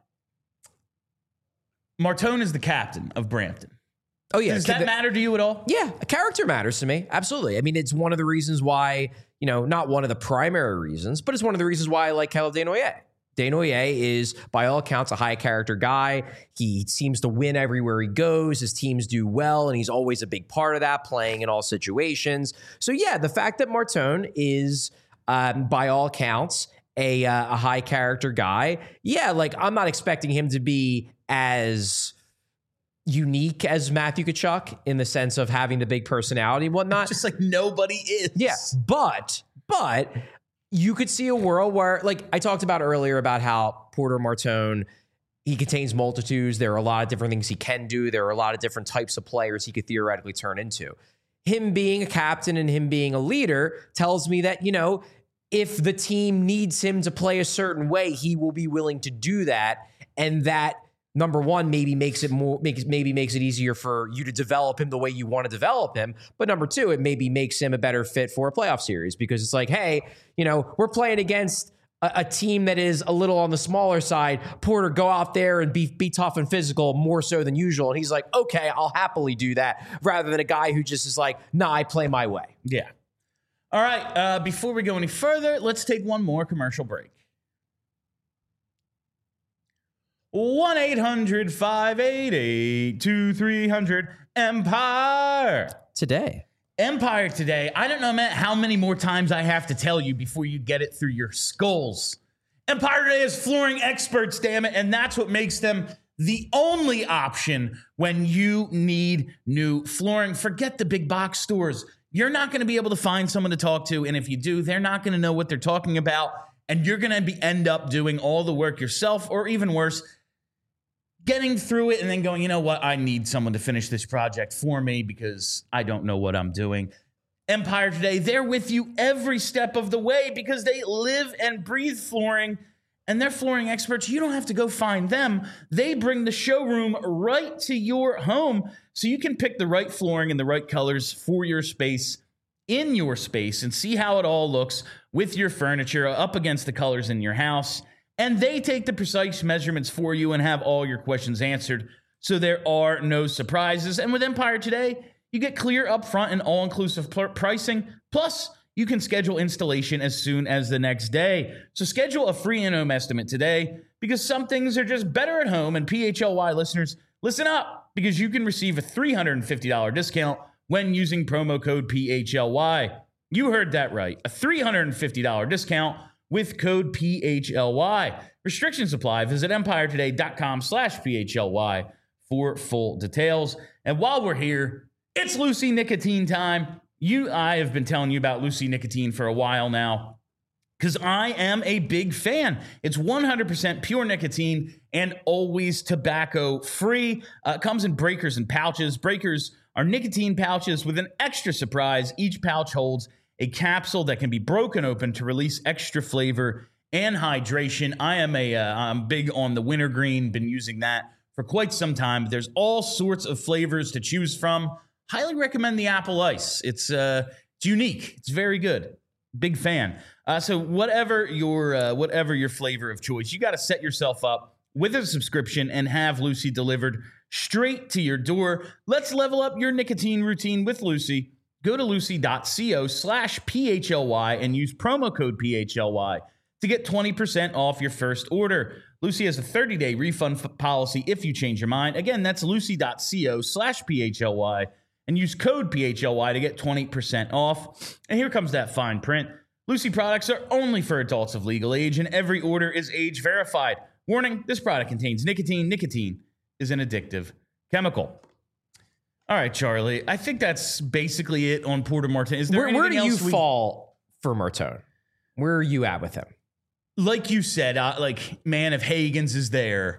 Martone is the captain of Brampton. Oh, yeah. Does that matter to you at all? Yeah, character matters to me. Absolutely. I mean, it's one of the reasons why, not one of the primary reasons, but it's one of the reasons why I like Kyle Desnoyers. Desnoyers is, by all accounts, a high-character guy. He seems to win everywhere he goes. His teams do well, and he's always a big part of that, playing in all situations. So, yeah, the fact that Martone is, by all accounts, a high-character guy, yeah, like I'm not expecting him to be as unique as Matthew Tkachuk in the sense of having the big personality and whatnot. Just like nobody is. Yeah, but you could see a world where, like I talked about earlier about how Porter Martone, he contains multitudes. There are a lot of different things he can do. There are a lot of different types of players he could theoretically turn into. Him being a captain and him being a leader tells me that, if the team needs him to play a certain way, he will be willing to do that. And that, number one, maybe makes it easier for you to develop him the way you want to develop him. But number two, it maybe makes him a better fit for a playoff series because it's like, hey, we're playing against a team that is a little on the smaller side. Porter, go out there and be tough and physical more so than usual. And he's like, okay, I'll happily do that, rather than a guy who just is like, nah, I play my way. Yeah. All right. Before we go any further, let's take one more commercial break. 1-800-588-2300 Empire. Empire today. I don't know, Matt, how many more times I have to tell you before you get it through your skulls. Empire today is flooring experts, damn it, and that's what makes them the only option when you need new flooring. Forget the big box stores. You're not going to be able to find someone to talk to, and if you do, they're not going to know what they're talking about, and you're going to end up doing all the work yourself, or even worse, getting through it and then going, you know what, I need someone to finish this project for me because I don't know what I'm doing. Empire today, they're with you every step of the way because they live and breathe flooring, and they're flooring experts. You don't have to go find them. They bring the showroom right to your home so you can pick the right flooring and the right colors for your space, in your space, and see how it all looks with your furniture up against the colors in your house. And they take the precise measurements for you and have all your questions answered, so there are no surprises. And with Empire today, you get clear upfront and all-inclusive pricing. Plus, you can schedule installation as soon as the next day. So schedule a free in-home estimate today because some things are just better at home. And PHLY listeners, listen up, because you can receive a $350 discount when using promo code PHLY. You heard that right. A $350 discount with code PHLY. Restrictions apply. Visit empiretoday.com/PHLY for full details. And while we're here, it's Lucy Nicotine time. I have been telling you about Lucy Nicotine for a while now because I am a big fan. It's 100% pure nicotine and always tobacco free. It comes in breakers and pouches. Breakers are nicotine pouches with an extra surprise. Each pouch holds a capsule that can be broken open to release extra flavor and hydration. I'm big on the wintergreen, been using that for quite some time. There's all sorts of flavors to choose from. Highly recommend the apple ice. It's unique. It's very good. Big fan. So whatever your flavor of choice, you got to set yourself up with a subscription and have Lucy delivered straight to your door. Let's level up your nicotine routine with Lucy. Go to lucy.co/PHLY and use promo code PHLY to get 20% off your first order. Lucy has a 30-day refund policy if you change your mind. Again, that's lucy.co/PHLY and use code PHLY to get 20% off. And here comes that fine print. Lucy products are only for adults of legal age, and every order is age verified. Warning, this product contains nicotine. Nicotine is an addictive chemical. All right, Charlie. I think that's basically it on Porter Martone. Is there where do you fall for Martone? Where are you at with him? Like you said, man, if Hagans is there,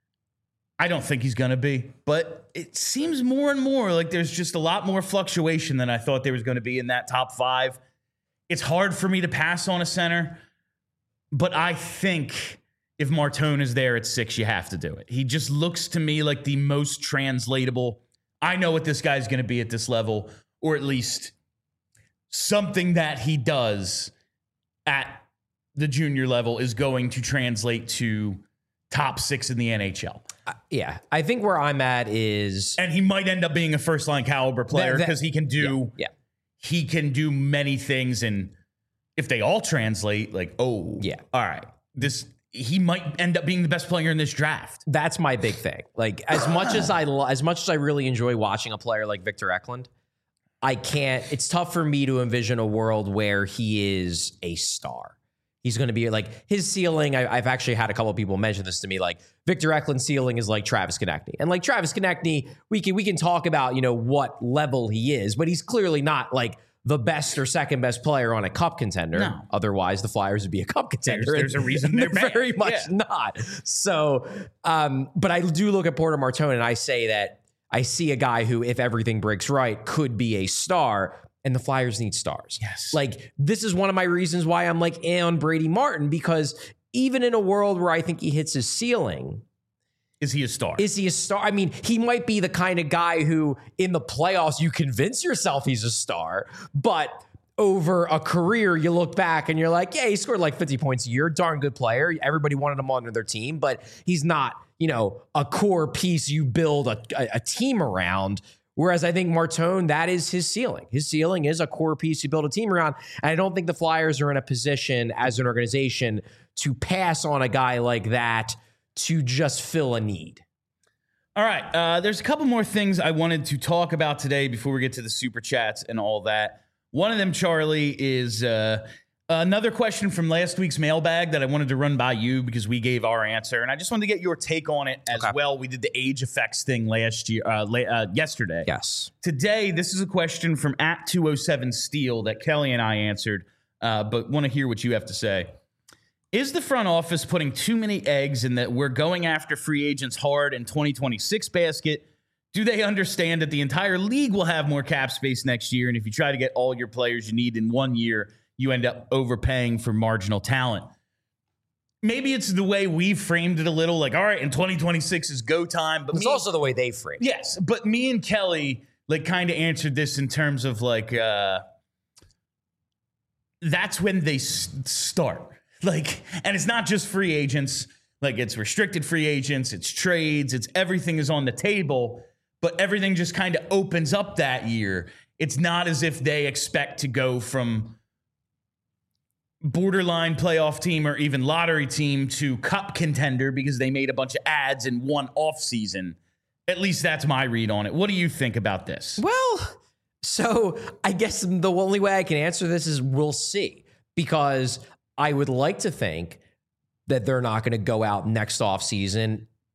I don't think he's going to be. But it seems more and more like there's just a lot more fluctuation than I thought there was going to be in that top five. It's hard for me to pass on a center, but I think if Martone is there at 6, you have to do it. He just looks to me like the most translatable. I know what this guy's going to be at this level, or at least something that he does at the junior level is going to translate to top 6 in the NHL. Yeah, I think where I'm at is, and he might end up being a first line caliber player because he can do he can do many things, and if they all translate, all right, he might end up being the best player in this draft. That's my big thing. Like as much as I really enjoy watching a player like Victor Eklund, I can't. It's tough for me to envision a world where he is a star. He's going to be like his ceiling. I've actually had a couple of people mention this to me. Like Victor Eklund's ceiling is like Travis Konechny, and like Travis Konechny, we can talk about what level he is, but he's clearly not like the best or second best player on a cup contender. No. Otherwise, the Flyers would be a cup contender. There's a reason they're very much not. So, but I do look at Porter Martone and I say that I see a guy who, if everything breaks right, could be a star. And the Flyers need stars. Yes. Like, this is one of my reasons why I'm like on Brady Martin, because even in a world where I think he hits his ceiling, is he a star? Is he a star? I mean, he might be the kind of guy who in the playoffs you convince yourself he's a star, but over a career you look back and you're like, yeah, he scored like 50 points a year, darn good player. Everybody wanted him on their team, but he's not, a core piece you build a team around. Whereas I think Martone, that is his ceiling. His ceiling is a core piece you build a team around. And I don't think the Flyers are in a position as an organization to pass on a guy like that to just fill a need. All right. There's a couple more things I wanted to talk about today before we get to the super chats and all that. One of them, Charlie, is another question from last week's mailbag that I wanted to run by you because we gave our answer. And I just wanted to get your take on it as well. We did the age effects thing yesterday. Yes. Today, this is a question from @207Steel that Kelly and I answered, but want to hear what you have to say. Is the front office putting too many eggs in that we're going after free agents hard in 2026 basket? Do they understand that the entire league will have more cap space next year? And if you try to get all your players you need in 1 year, you end up overpaying for marginal talent. Maybe it's the way we framed it a little, like, all right, in 2026 is go time. But it's also the way they framed it. Yes, but me and Kelly kind of answered this in terms of that's when they start. And it's not just free agents. It's restricted free agents, it's trades, it's everything is on the table, but everything just kind of opens up that year. It's not as if they expect to go from borderline playoff team or even lottery team to cup contender because they made a bunch of ads in one off season. At least that's my read on it. What do you think about this? Well, so I guess the only way I can answer this is we'll see, because I would like to think that they're not going to go out next offseason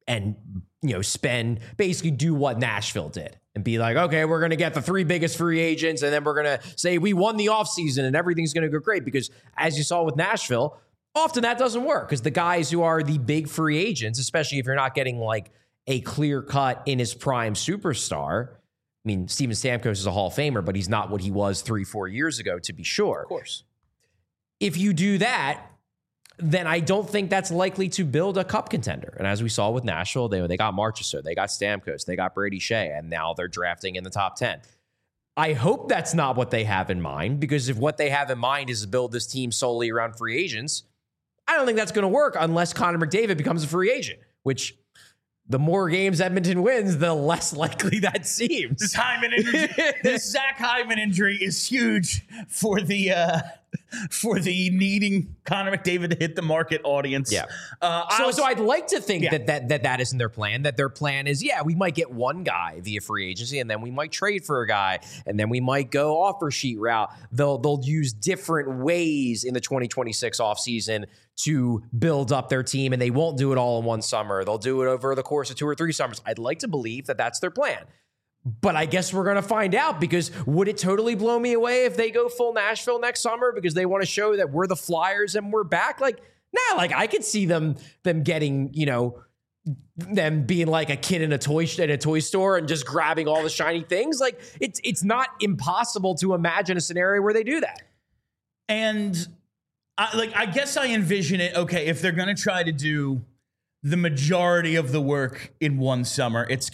and basically do what Nashville did and be like, okay, we're going to get the 3 biggest free agents, and then we're going to say we won the offseason and everything's going to go great. Because as you saw with Nashville, often that doesn't work, because the guys who are the big free agents, especially if you're not getting like a clear cut in his prime superstar. I mean, Steven Stamkos is a Hall of Famer, but he's not what he was 3-4 years ago, to be sure. Of course. If you do that, then I don't think that's likely to build a cup contender. And as we saw with Nashville, they got Marchessault, they got Stamkos, they got Brady Shea, and now they're drafting in the top 10. I hope that's not what they have in mind, because if what they have in mind is to build this team solely around free agents, I don't think that's going to work unless Connor McDavid becomes a free agent, which the more games Edmonton wins, the less likely that seems. This Hyman injury, this Zach Hyman injury is huge for the needing Connor McDavid to hit the market audience. Yeah. So I'd like to think that isn't their plan. That their plan is, we might get one guy via free agency, and then we might trade for a guy, and then we might go offer sheet route. They'll use different ways in the 2026 offseason to build up their team, and they won't do it all in one summer. They'll do it over the course of 2 or 3 summers. I'd like to believe that that's their plan. But I guess we're going to find out, because would it totally blow me away if they go full Nashville next summer because they want to show that we're the Flyers and we're back? Like, nah, like I could see them getting, them being like a kid in a toy store and just grabbing all the shiny things. Like it's not impossible to imagine a scenario where they do that. And I guess I envision it. Okay, if they're going to try to do the majority of the work in one summer, it's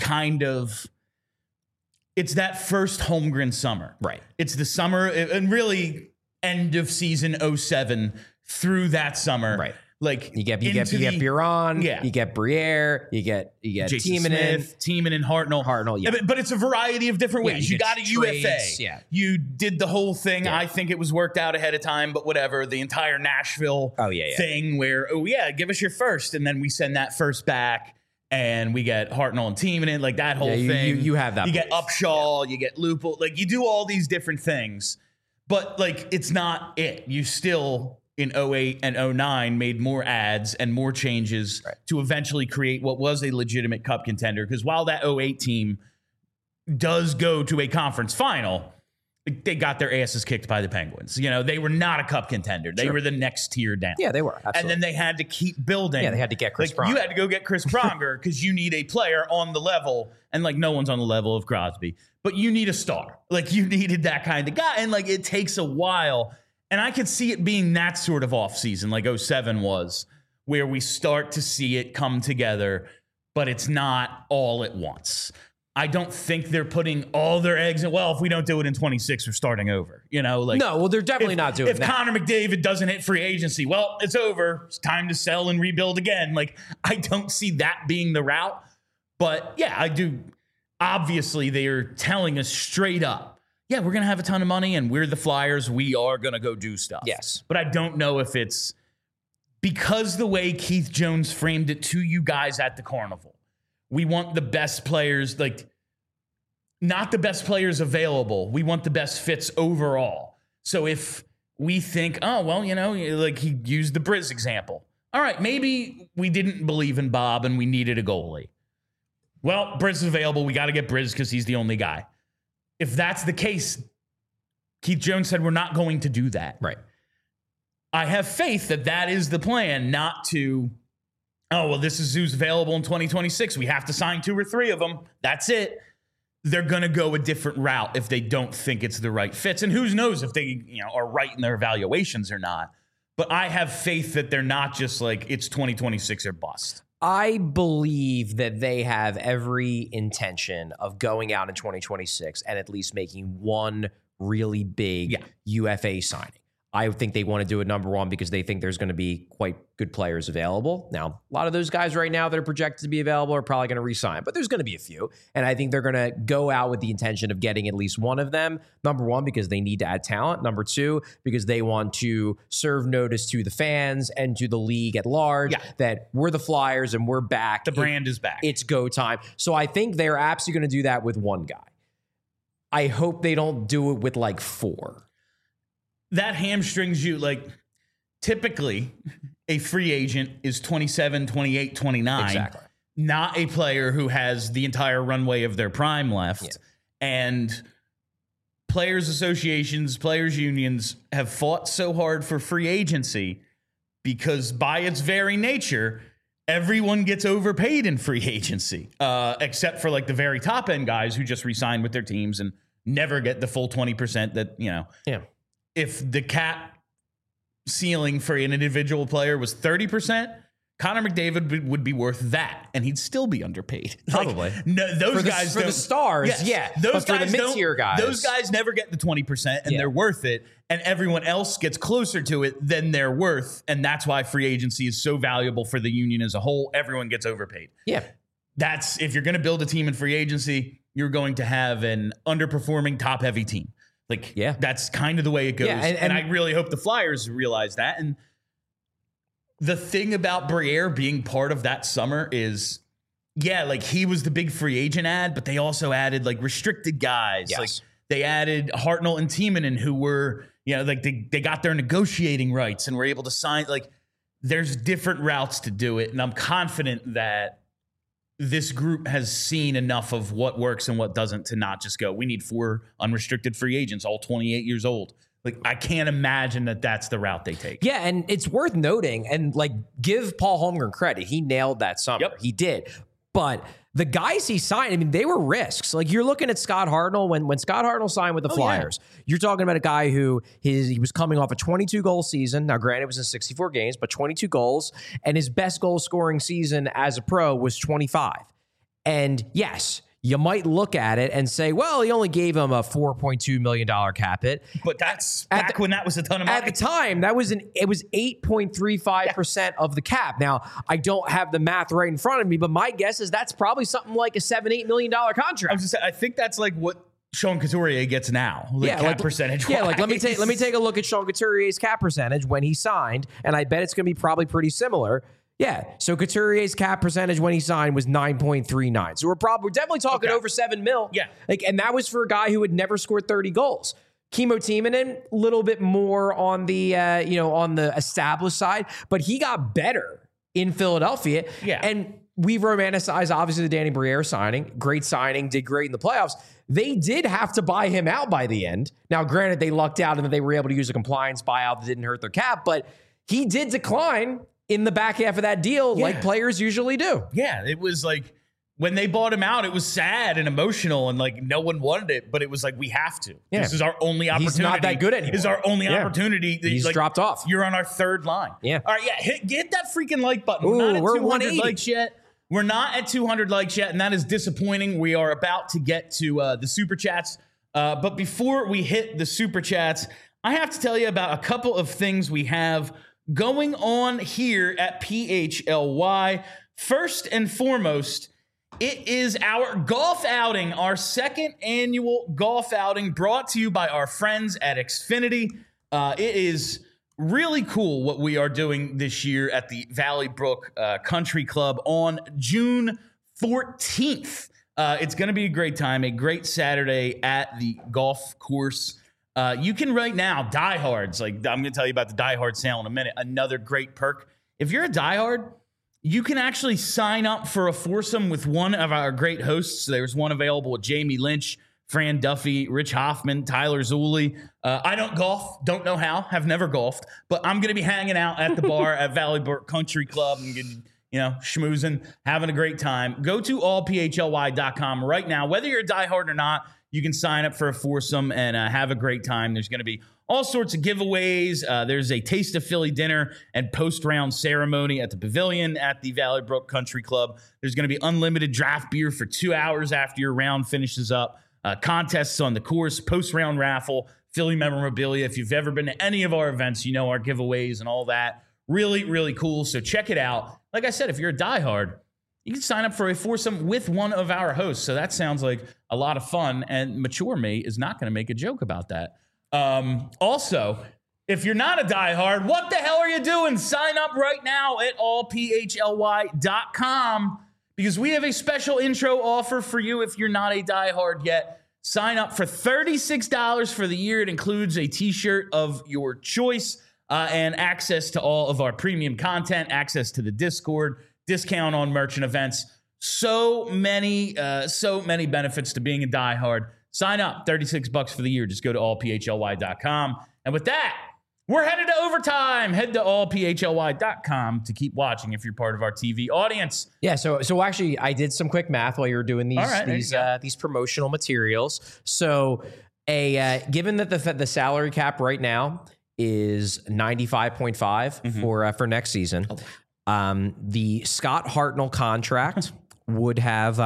that first Holmgren summer. Right. It's the summer, and really end of season 07 through that summer. Right. Like you get Biron, you get Briere, you get Tiemann, Hartnell. Yeah. But it's a variety of different ways. You got a trades, UFA. Yeah. You did the whole thing. Yeah. I think it was worked out ahead of time, but whatever. The entire Nashville thing where, give us your first. And then we send that first back. And we get Hartnell and Tiemann, like that whole thing. You have that. You get Upshaw, you get Lupul. Like you do all these different things. But like it's not it. You still in 08 and 09 made more ads and more changes to eventually create what was a legitimate cup contender. Because while that 08 team does go to a conference final, they got their asses kicked by the Penguins. They were not a cup contender. They were the next tier down. Yeah, they were. Absolutely. And then they had to keep building. Yeah, they had to get Chris Pronger. You had to go get Chris Pronger because you need a player on the level. And no one's on the level of Crosby. But you need a star. You needed that kind of guy. And it takes a while. And I could see it being that sort of offseason, like 07 was, where we start to see it come together, but it's not all at once. I don't think they're putting all their eggs in. Well, if we don't do it in 26, we're starting over. No, well, they're definitely not doing that. If Connor McDavid doesn't hit free agency, well, it's over. It's time to sell and rebuild again. I don't see that being the route. But yeah, I do. Obviously, they are telling us straight up, we're going to have a ton of money and we're the Flyers. We are going to go do stuff. Yes. But I don't know if it's because the way Keith Jones framed it to you guys at the Carnival. We want the best players, not the best players available. We want the best fits overall. So if we think, he used the Briz example. All right, maybe we didn't believe in Bob and we needed a goalie. Well, Briz is available. We got to get Briz because he's the only guy. If that's the case, Keith Jones said we're not going to do that. Right. I have faith that is the plan, not to... this is who's available in 2026. We have to sign 2 or 3 of them. That's it. They're going to go a different route if they don't think it's the right fits. And who knows if they are right in their evaluations or not. But I have faith that they're not just it's 2026 or bust. I believe that they have every intention of going out in 2026 and at least making one really big UFA signing. I think they want to do it, number one, because they think there's going to be quite good players available. Now, a lot of those guys right now that are projected to be available are probably going to re-sign, but there's going to be a few. And I think they're going to go out with the intention of getting at least one of them. Number one, because they need to add talent. Number two, because they want to serve notice to the fans and to the league at large that we're the Flyers and we're back. The brand is back. It's go time. So I think they're absolutely going to do that with one guy. I hope they don't do it with 4. That hamstrings you. Typically, a free agent is 27, 28, 29. Exactly. not a player who has the entire runway of their prime left. Yeah. And players associations, players unions have fought so hard for free agency because by its very nature, everyone gets overpaid in free agency, except for like the very top end guys who just re-sign with their teams and never get the full 20% that, you know, if the cap ceiling for an individual player was 30%, Connor McDavid would be worth that, and he'd still be underpaid. Probably. Like, no, those guys for the stars, yes, yeah. Those but guys for the mid-tier guys, those guys never get the 20%, and they're worth it. And everyone else gets closer to it than they're worth, and that's why free agency is so valuable for the union as a whole. Everyone gets overpaid. Yeah, that's if you're going to build a team in free agency, you're going to have an underperforming, top-heavy team. Like, that's kind of the way it goes. Yeah, and I really hope the Flyers realize that. And the thing about Briere being part of that summer is, like he was the big free agent ad, but they also added like restricted guys. Yes. Like they added Hartnell and Timonen, who were, like they got their negotiating rights and were able to sign. Like there's different routes to do it. And I'm confident that this group has seen enough of what works and what doesn't to not just go, we need 4 unrestricted free agents, all 28 years old. Like, I can't imagine that that's the route they take. Yeah, and it's worth noting, and like, give Paul Holmgren credit. He nailed that summer. Yep. He did. But the guys he signed, I mean, they were risks. Like, you're looking at Scott Hartnell. When Scott Hartnell signed with the Flyers, you're talking about a guy who he was coming off a 22-goal season. Now, granted, it was in 64 games, but 22 goals. And his best goal-scoring season as a pro was 25. And yes, you might look at it and say, well, he only gave him a $4.2 million cap hit. But that's back when that was a ton of money. At the time, it was 8.35% of the cap. Now, I don't have the math right in front of me, but my guess is that's probably something like a $7-8 million contract. I think that's like what Sean Couturier gets now, cap percentage. Yeah, like let me take a look at Sean Couturier's cap percentage when he signed, and I bet it's going to be probably pretty similar. Yeah, so Couturier's cap percentage when he signed was 9.39. So we're definitely talking over $7 million. Yeah, and that was for a guy who had never scored 30 goals. Kimmo Timonen, a little bit more on the on the established side, but he got better in Philadelphia. Yeah, and we romanticize obviously the Danny Briere signing. Great signing, did great in the playoffs. They did have to buy him out by the end. Now, granted, they lucked out and that they were able to use a compliance buyout that didn't hurt their cap, but he did decline in the back half of that deal, like players usually do. Yeah, it was like when they bought him out, it was sad and emotional and like no one wanted it, but it was like, we have to. Yeah. This is our only opportunity. He's not that good anymore. This is our only opportunity. He's like, dropped off. You're on our third line. Yeah. All right, hit that freaking like button. Ooh, we're not at 200 180 likes yet. We're not at 200 likes yet, and that is disappointing. We are about to get to the Super Chats. But before we hit the Super Chats, I have to tell you about a couple of things we have going on here at PHLY. First and foremost, it is our golf outing, our second annual golf outing brought to you by our friends at Xfinity. It is really cool what we are doing this year at the Valley Brook Country Club on June 14th. It's going to be a great time, a great Saturday at the golf course. You can right now, diehards, like I'm going to tell you about the diehard sale in a minute, another great perk. If you're a diehard, you can actually sign up for a foursome with one of our great hosts. There's one available with Jamie Lynch, Fran Duffy, Rich Hoffman, Tyler Zulli. I don't golf, don't know how, have never golfed, but I'm going to be hanging out at the bar at Valley Brook Country Club and schmoozing, having a great time. Go to allphly.com right now. Whether you're a diehard or not, you can sign up for a foursome and have a great time. There's going to be all sorts of giveaways. There's a Taste of Philly dinner and post-round ceremony at the Pavilion at the Valley Brook Country Club. There's going to be unlimited draft beer for 2 hours after your round finishes up. Contests on the course, post-round raffle, Philly memorabilia. If you've ever been to any of our events, you know our giveaways and all that. Really, really cool. So check it out. Like I said, if you're a diehard, you can sign up for a foursome with one of our hosts. So that sounds like a lot of fun. And mature me is not going to make a joke about that. Also, if you're not a diehard, what the hell are you doing? Sign up right now at allphly.com because we have a special intro offer for you if you're not a diehard yet. Sign up for $36 for the year. It includes a t-shirt of your choice and access to all of our premium content, access to the Discord, discount on merchant events. So many benefits to being a diehard. Sign up, $36 for the year. Just go to allphly.com. And with that, we're headed to overtime. Head to allphly.com to keep watching if you're part of our TV audience. Yeah, so actually, I did some quick math while you were doing right, these promotional materials. So, given that the salary cap right now is 95.5 for next season, the Scott Hartnell contract would have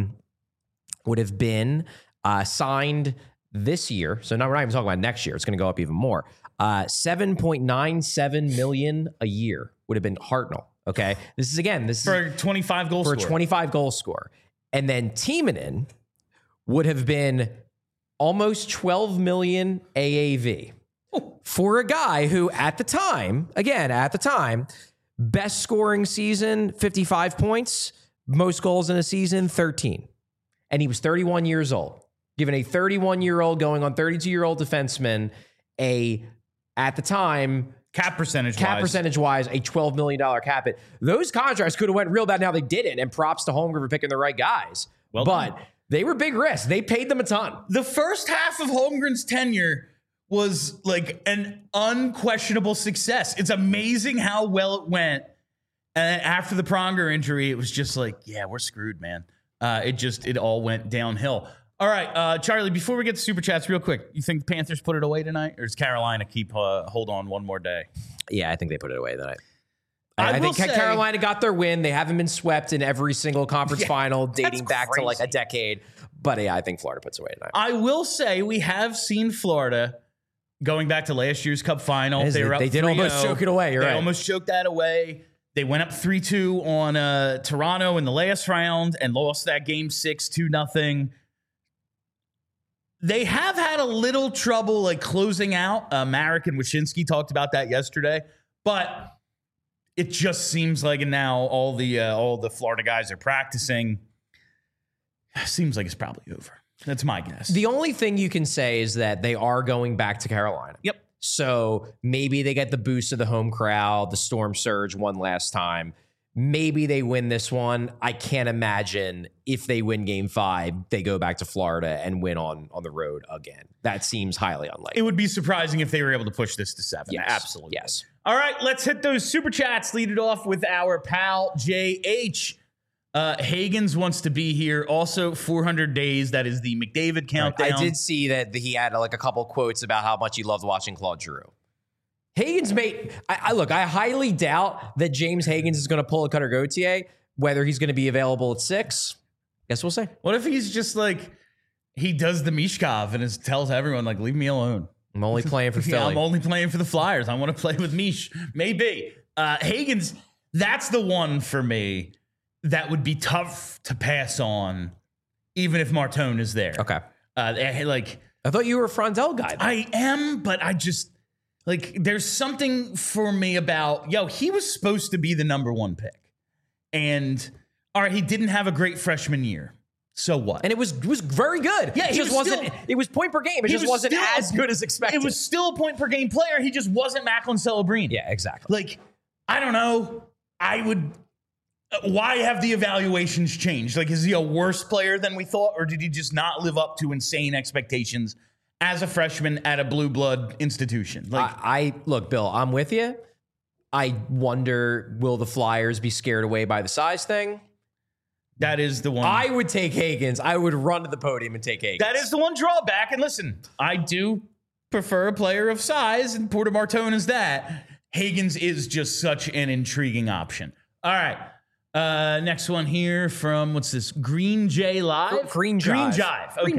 been signed this year. So now we're not even talking about next year. It's going to go up even more. $7.97 million a year would have been Hartnell. Okay, this is for a 25 goal for scorer. a 25 goal score, and then Timonen would have been almost 12 million AAV for a guy who, at the time, best scoring season 55 points, most goals in a season 13, and he was 31 years old. Given a 31-year-old going on 32-year-old defenseman, at the time, cap percentage wise, a $12 million cap hit. Those contracts could have went real bad. Now they didn't, and props to Holmgren for picking the right guys. But they were big risks. They paid them a ton. The first half of Holmgren's tenure was like an unquestionable success. It's amazing how well it went. And after the Pronger injury, it was just like, yeah, we're screwed, man. It all went downhill. All right, Charlie, before we get to Super Chats, real quick, you think the Panthers put it away tonight, or does Carolina keep hold on one more day? Yeah, I think they put it away tonight. I think Carolina got their win. They haven't been swept in every single conference final dating back to like a decade. But yeah, I think Florida puts it away tonight. I will say we have seen Florida going back to last year's Cup final. They did almost choke it away. They almost choked that away. They went up 3-2 on Toronto in the last round and lost that game 6-2-0. They have had a little trouble like closing out. Marek and Wyshynski talked about that yesterday, but it just seems like now all the Florida guys are practicing. Seems like it's probably over. That's my guess. The only thing you can say is that they are going back to Carolina. Yep. So maybe they get the boost of the home crowd, the storm surge one last time. Maybe they win this one. I can't imagine if they win game 5, they go back to Florida and win on the road again. That seems highly unlikely. It would be surprising if they were able to push this to 7. Yes. Absolutely. Yes. All right, let's hit those Super Chats. Lead it off with our pal, JH. Hagens wants to be here. Also, 400 days. That is the McDavid countdown. I did see that he had like a couple quotes about how much he loved watching Claude Giroux. Hagens made. I highly doubt that James Hagens is going to pull a Cutter Gauthier. Whether he's going to be available at 6, guess we'll see. What if he's just like he does the Mishkov and tells everyone like, leave me alone. I'm only playing for Philly. I'm only playing for the Flyers. I want to play with Mish. Maybe Hagens. That's the one for me that would be tough to pass on, even if Martone is there. Okay. I thought you were a Frondell guy. I am, but I just there's something for me about he was supposed to be the number 1 pick, and all right, he didn't have a great freshman year. So what? And it was very good. Yeah, it just wasn't. It was point per game. It just wasn't as good as expected. It was still a point per game player. He just wasn't Macklin Celebrini. Yeah, exactly. I don't know. I would. Why have the evaluations changed? Is he a worse player than we thought, or did he just not live up to insane expectations as a freshman at a blue blood institution? Look, Bill, I'm with you. I wonder, will the Flyers be scared away by the size thing? That is the one. I would take Hagens. I would run to the podium and take Hagens. That is the one drawback. And listen, I do prefer a player of size, and Porter Martone is that. Hagens is just such an intriguing option. All right. Next one here from, what's this? Green J Live? Green Jive. Okay, Green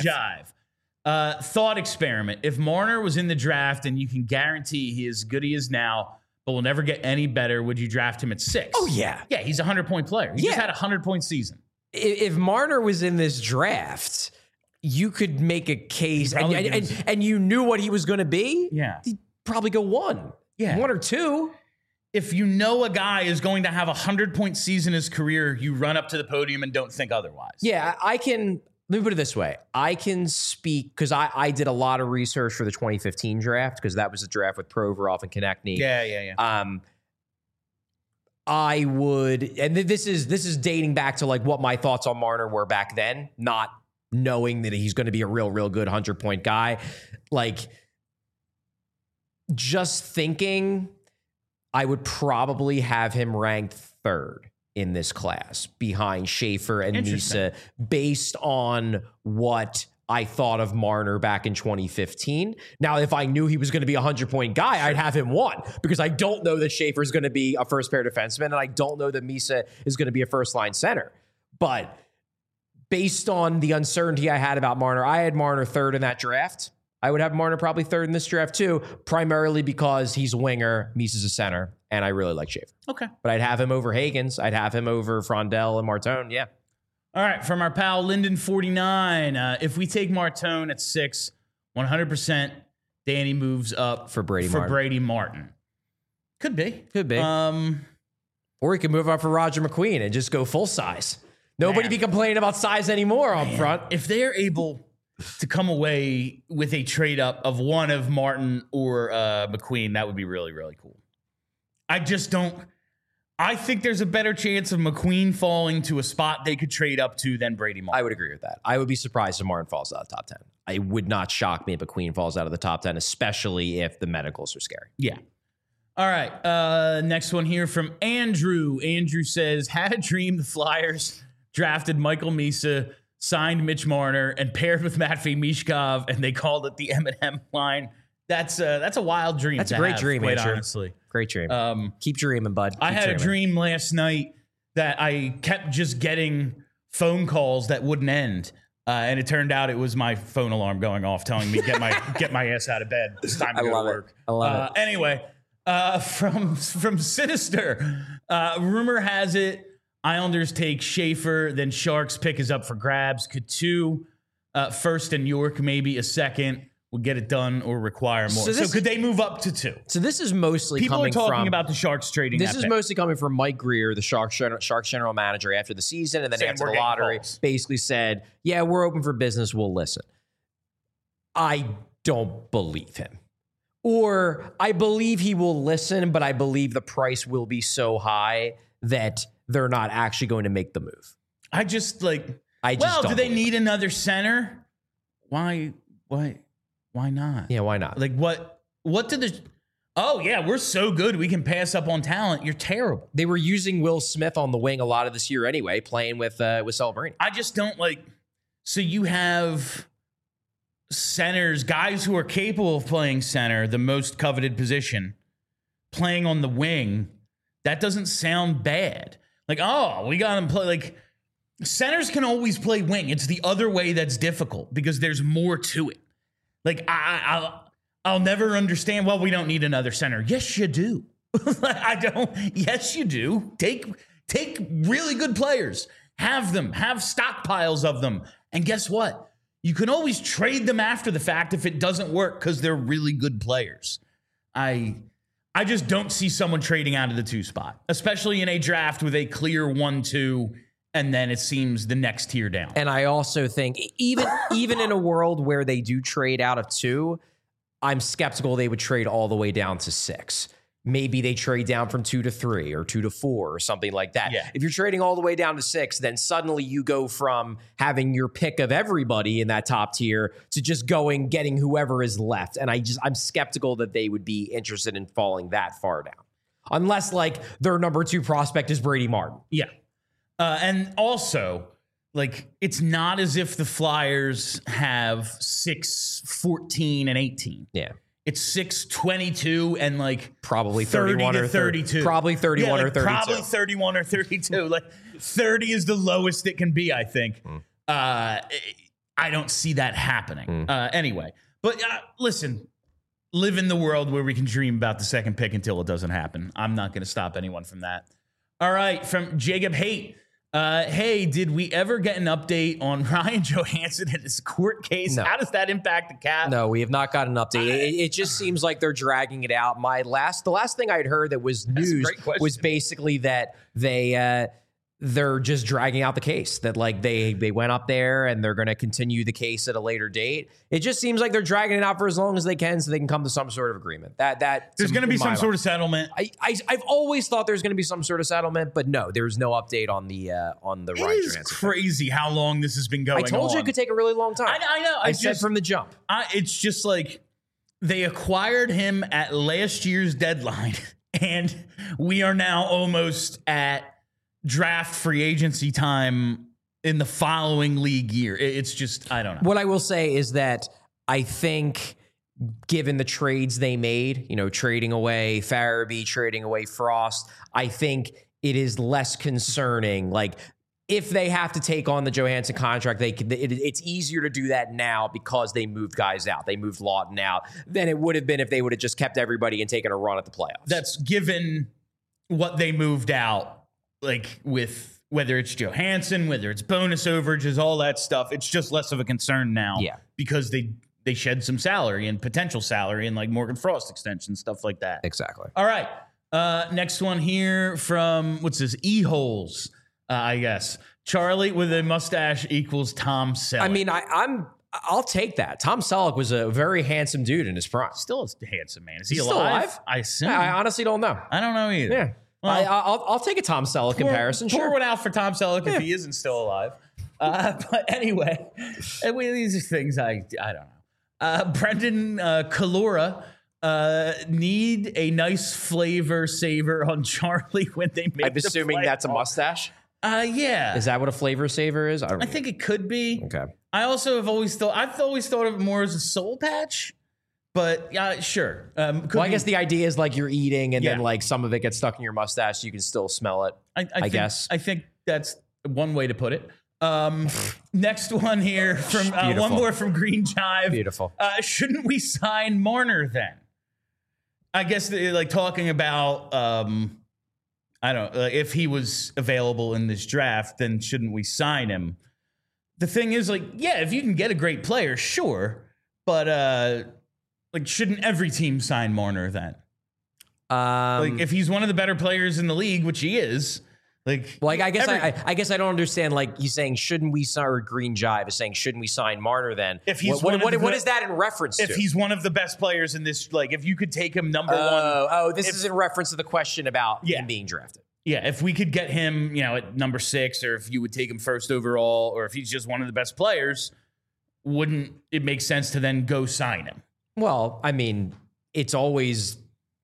Jive. Thought experiment. If Marner was in the draft and you can guarantee he is good he is now, but will never get any better, would you draft him at 6? Oh, yeah. Yeah, he's a 100-point player. He just had a 100-point season. If Marner was in this draft, you could make a case, and you knew what he was going to be. Yeah. He'd probably go 1. Yeah. 1 or 2. If you know a guy is going to have a 100-point season in his career, you run up to the podium and don't think otherwise. Yeah, I can. Let me put it this way. I can speak because I did a lot of research for the 2015 draft because that was the draft with Provorov and Konechny. Yeah. I would, and this is dating back to like what my thoughts on Marner were back then, not knowing that he's going to be a real good 100-point guy. Like, just thinking, I would probably have him ranked third in this class behind Schaefer and Misa, based on what I thought of Marner back in 2015. Now, if I knew he was going to be a 100-point guy, I'd have him one, because I don't know that Schaefer is going to be a first-pair defenseman, and I don't know that Misa is going to be a first-line center. But based on the uncertainty I had about Marner, I had Marner third in that draft. I would have Marner probably third in this draft too, primarily because he's a winger, Misa's a center, and I really like Schaefer. Okay. But I'd have him over Hagens. I'd have him over Frondell and Martone, yeah. All right, from our pal Linden49, if we take Martone at 6, 100%, Danny moves up for Brady Martin. Could be. Or he could move up for Roger McQueen and just go full size. Nobody be complaining about size anymore up front. If they're able to come away with a trade up of one of Martin or McQueen, that would be really, really cool. I think there's a better chance of McQueen falling to a spot they could trade up to than Brady Martin. I would agree with that. I would be surprised if Martin falls out of the top 10. It would not shock me if McQueen falls out of the top 10, especially if the medicals are scary. Yeah. All right. Next one here from Andrew. Andrew says, had a dream the Flyers drafted Michael Misa, signed Mitch Marner, and paired with Matvei Mishkov, and they called it the M&M line. That's a wild dream. That's a great dream, quite Andrew. honestly. Great dream. Keep dreaming, bud. I had a dream last night that I kept just getting phone calls that wouldn't end. And it turned out it was my phone alarm going off telling me get my ass out of bed. It's time to go to work. I love it. Anyway, from Sinister, rumor has it Islanders take Schaefer, then Sharks pick is up for grabs. Could 2 first and York, maybe a second, would get it done or require more. So could they move up to 2? So this is mostly people coming are talking from, about the Sharks trading. This is mostly coming from Mike Greer, the Sharks general manager, after the season and then after the lottery, basically said, "Yeah, we're open for business. We'll listen." I don't believe him, or I believe he will listen, but I believe the price will be so high that they're not actually going to make the move. Do they need another center? Why not? Yeah, why not? Like what did the oh yeah, we're so good we can pass up on talent. You're terrible. They were using Will Smith on the wing a lot of this year anyway, playing with Celebrini. I just don't like, so you have centers, guys who are capable of playing center, the most coveted position, playing on the wing. That doesn't sound bad. Like, oh, we got him play. Like, centers can always play wing. It's the other way that's difficult because there's more to it. Like, I'll never understand, well, we don't need another center. Yes, you do. I don't. Yes, you do. Take really good players. Have stockpiles of them. And guess what? You can always trade them after the fact if it doesn't work because they're really good players. I just don't see someone trading out of the 2 spot, especially in a draft with a clear 1-2, and then it seems the next tier down. And I also think even in a world where they do trade out of 2, I'm skeptical they would trade all the way down to 6. Maybe they trade down from 2 to 3 or 2 to 4 or something like that. Yeah. If you're trading all the way down to 6, then suddenly you go from having your pick of everybody in that top tier to just getting whoever is left. And I'm skeptical that they would be interested in falling that far down. Unless like their number 2 prospect is Brady Martin. Yeah. And also, like, it's not as if the Flyers have 6, 14, and 18. Yeah. It's 6, 22, and like probably 31 or 32. Probably 31 or 32. Probably 31 or 32. Like 30 is the lowest it can be, I think. I don't see that happening. Anyway, but listen, live in the world where we can dream about the second pick until it doesn't happen. I'm not going to stop anyone from that. All right, from Jacob Haight. Hey, did we ever get an update on Ryan Johansson and his court case? No. How does that impact the cap? No, we have not got an update. It just seems like they're dragging it out. The last thing I'd heard that was news was basically that they're just dragging out the case, that like they went up there and they're going to continue the case at a later date. It just seems like they're dragging it out for as long as they can so they can come to some sort of agreement. That there's going to be some sort of settlement. I've always thought there's going to be some sort of settlement, but no, there's no update on the Ryan Johansson. It's crazy how long this has been going on. I told you it could take a really long time. I know. I said from the jump. It's just like they acquired him at last year's deadline, and we are now almost at draft free agency time in the following league year. It's just, I don't know. What I will say is that I think given the trades they made, trading away Farabee, trading away Frost, I think it is less concerning. Like if they have to take on the Johansson contract, it's easier to do that now because they moved guys out. They moved Lawton out than it would have been if they would have just kept everybody and taken a run at the playoffs. That's given what they moved out. Like with whether it's Johansson, whether it's bonus overages, all that stuff, it's just less of a concern now. Yeah. Because they shed some salary and potential salary and like Morgan Frost extension, stuff like that. Exactly. All right. Next one here from, what's this? E-holes, I guess. Charlie with a mustache equals Tom Selleck. I mean, I'll take that. Tom Selleck was a very handsome dude in his prime. Still a handsome man. Is he He's alive? still alive? I assume. I honestly don't know. I don't know either. Yeah. Well, I'll take a Tom Selleck comparison. Pour sure. one out for Tom Selleck if he isn't still alive. But anyway, these are things I don't know. Brendan Kalora need a nice flavor saver on Charlie when they make. I'm assuming that's a mustache. Yeah. Is that what a flavor saver is? I think it could be. Okay. I've always thought of it more as a soul patch. But sure. I guess the idea is like you're eating and then like some of it gets stuck in your mustache. So you can still smell it. I guess. I think that's one way to put it. Next one here from one more from Green Jive. Beautiful. Shouldn't we sign Marner then? I guess like talking about I don't know, if he was available in this draft, then shouldn't we sign him? The thing is, like, yeah, if you can get a great player, sure, but like, shouldn't every team sign Marner then? Like, if he's one of the better players in the league, which he is, like, well, I guess I don't understand. Like, he's saying, shouldn't we sign? Or Green Jive is saying, shouldn't we sign Marner then? If he's what is that in reference to? If he's one of the best players in this, like, if you could take him number one. Oh, this is in reference to the question about him being drafted. Yeah, if we could get him, at number 6, or if you would take him first overall, or if he's just one of the best players, wouldn't it make sense to then go sign him? Well, I mean, it's always.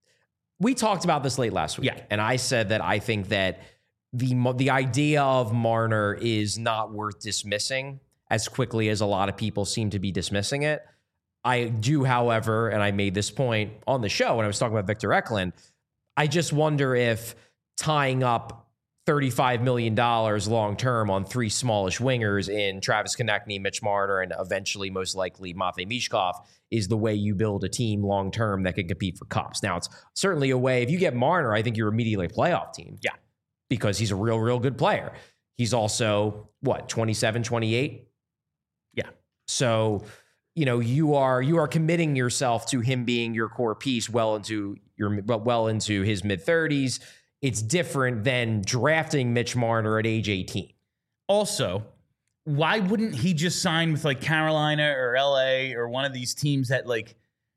We talked about this late last week, and I said that I think that the idea of Marner is not worth dismissing as quickly as a lot of people seem to be dismissing it. I do, however, and I made this point on the show when I was talking about Victor Eklund, I just wonder if tying up $35 million long-term on 3 smallish wingers in Travis Konechny, Mitch Marner, and eventually, most likely, Matvei Michkov is the way you build a team long-term that can compete for cups. Now, it's certainly a way, if you get Marner, I think you're immediately a playoff team. Yeah. Because he's a real, real good player. He's also, 27, 28? Yeah. So, you are committing yourself to him being your core piece well into his mid-30s. It's different than drafting Mitch Marner at age 18. Also, why wouldn't he just sign with like Carolina or LA or one of these teams that like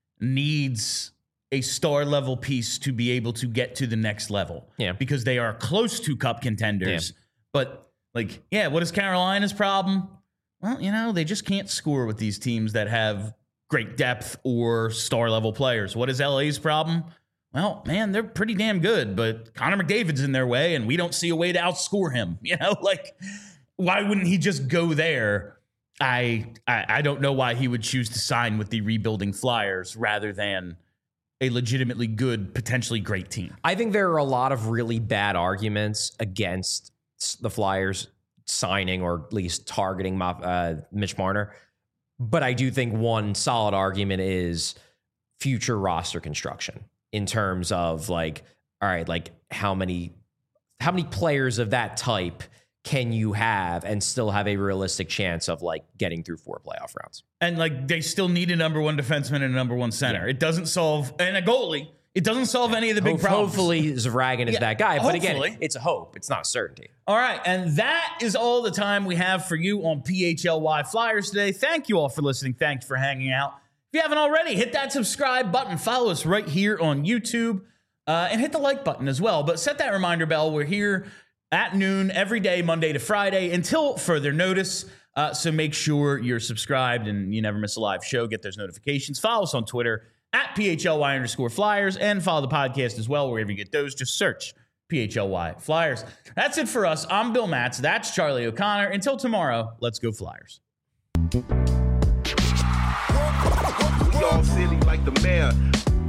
needs a star level piece to be able to get to the next level? Yeah. Because they are close to cup contenders. Yeah. But like, what is Carolina's problem? Well, they just can't score with these teams that have great depth or star level players. What is LA's problem? Well, man, they're pretty damn good, but Connor McDavid's in their way, and we don't see a way to outscore him. Like, why wouldn't he just go there? I don't know why he would choose to sign with the rebuilding Flyers rather than a legitimately good, potentially great team. I think there are a lot of really bad arguments against the Flyers signing or at least targeting Mitch Marner, but I do think one solid argument is future roster construction. In terms of like, all right, like how many players of that type can you have and still have a realistic chance of like getting through 4 playoff rounds? And like they still need a number 1 defenseman and a number 1 center. Yeah. It doesn't solve, and a goalie. It doesn't solve any of the big problems. Hopefully Zvragin is that guy. But hopefully. again, it's a hope. It's not a certainty. All right, and that is all the time we have for you on PHLY Flyers today. Thank you all for listening. Thanks for hanging out. If you haven't already, hit that subscribe button. Follow us right here on YouTube. And hit the like button as well. But set that reminder bell. We're here at noon every day, Monday to Friday, until further notice. So make sure you're subscribed and you never miss a live show. Get those notifications. Follow us on Twitter at PHLY_Flyers and follow the podcast as well. Wherever you get those, just search PHLY Flyers. That's it for us. I'm Bill Matz. That's Charlie O'Connor. Until tomorrow, let's go Flyers. We all silly like the mayor.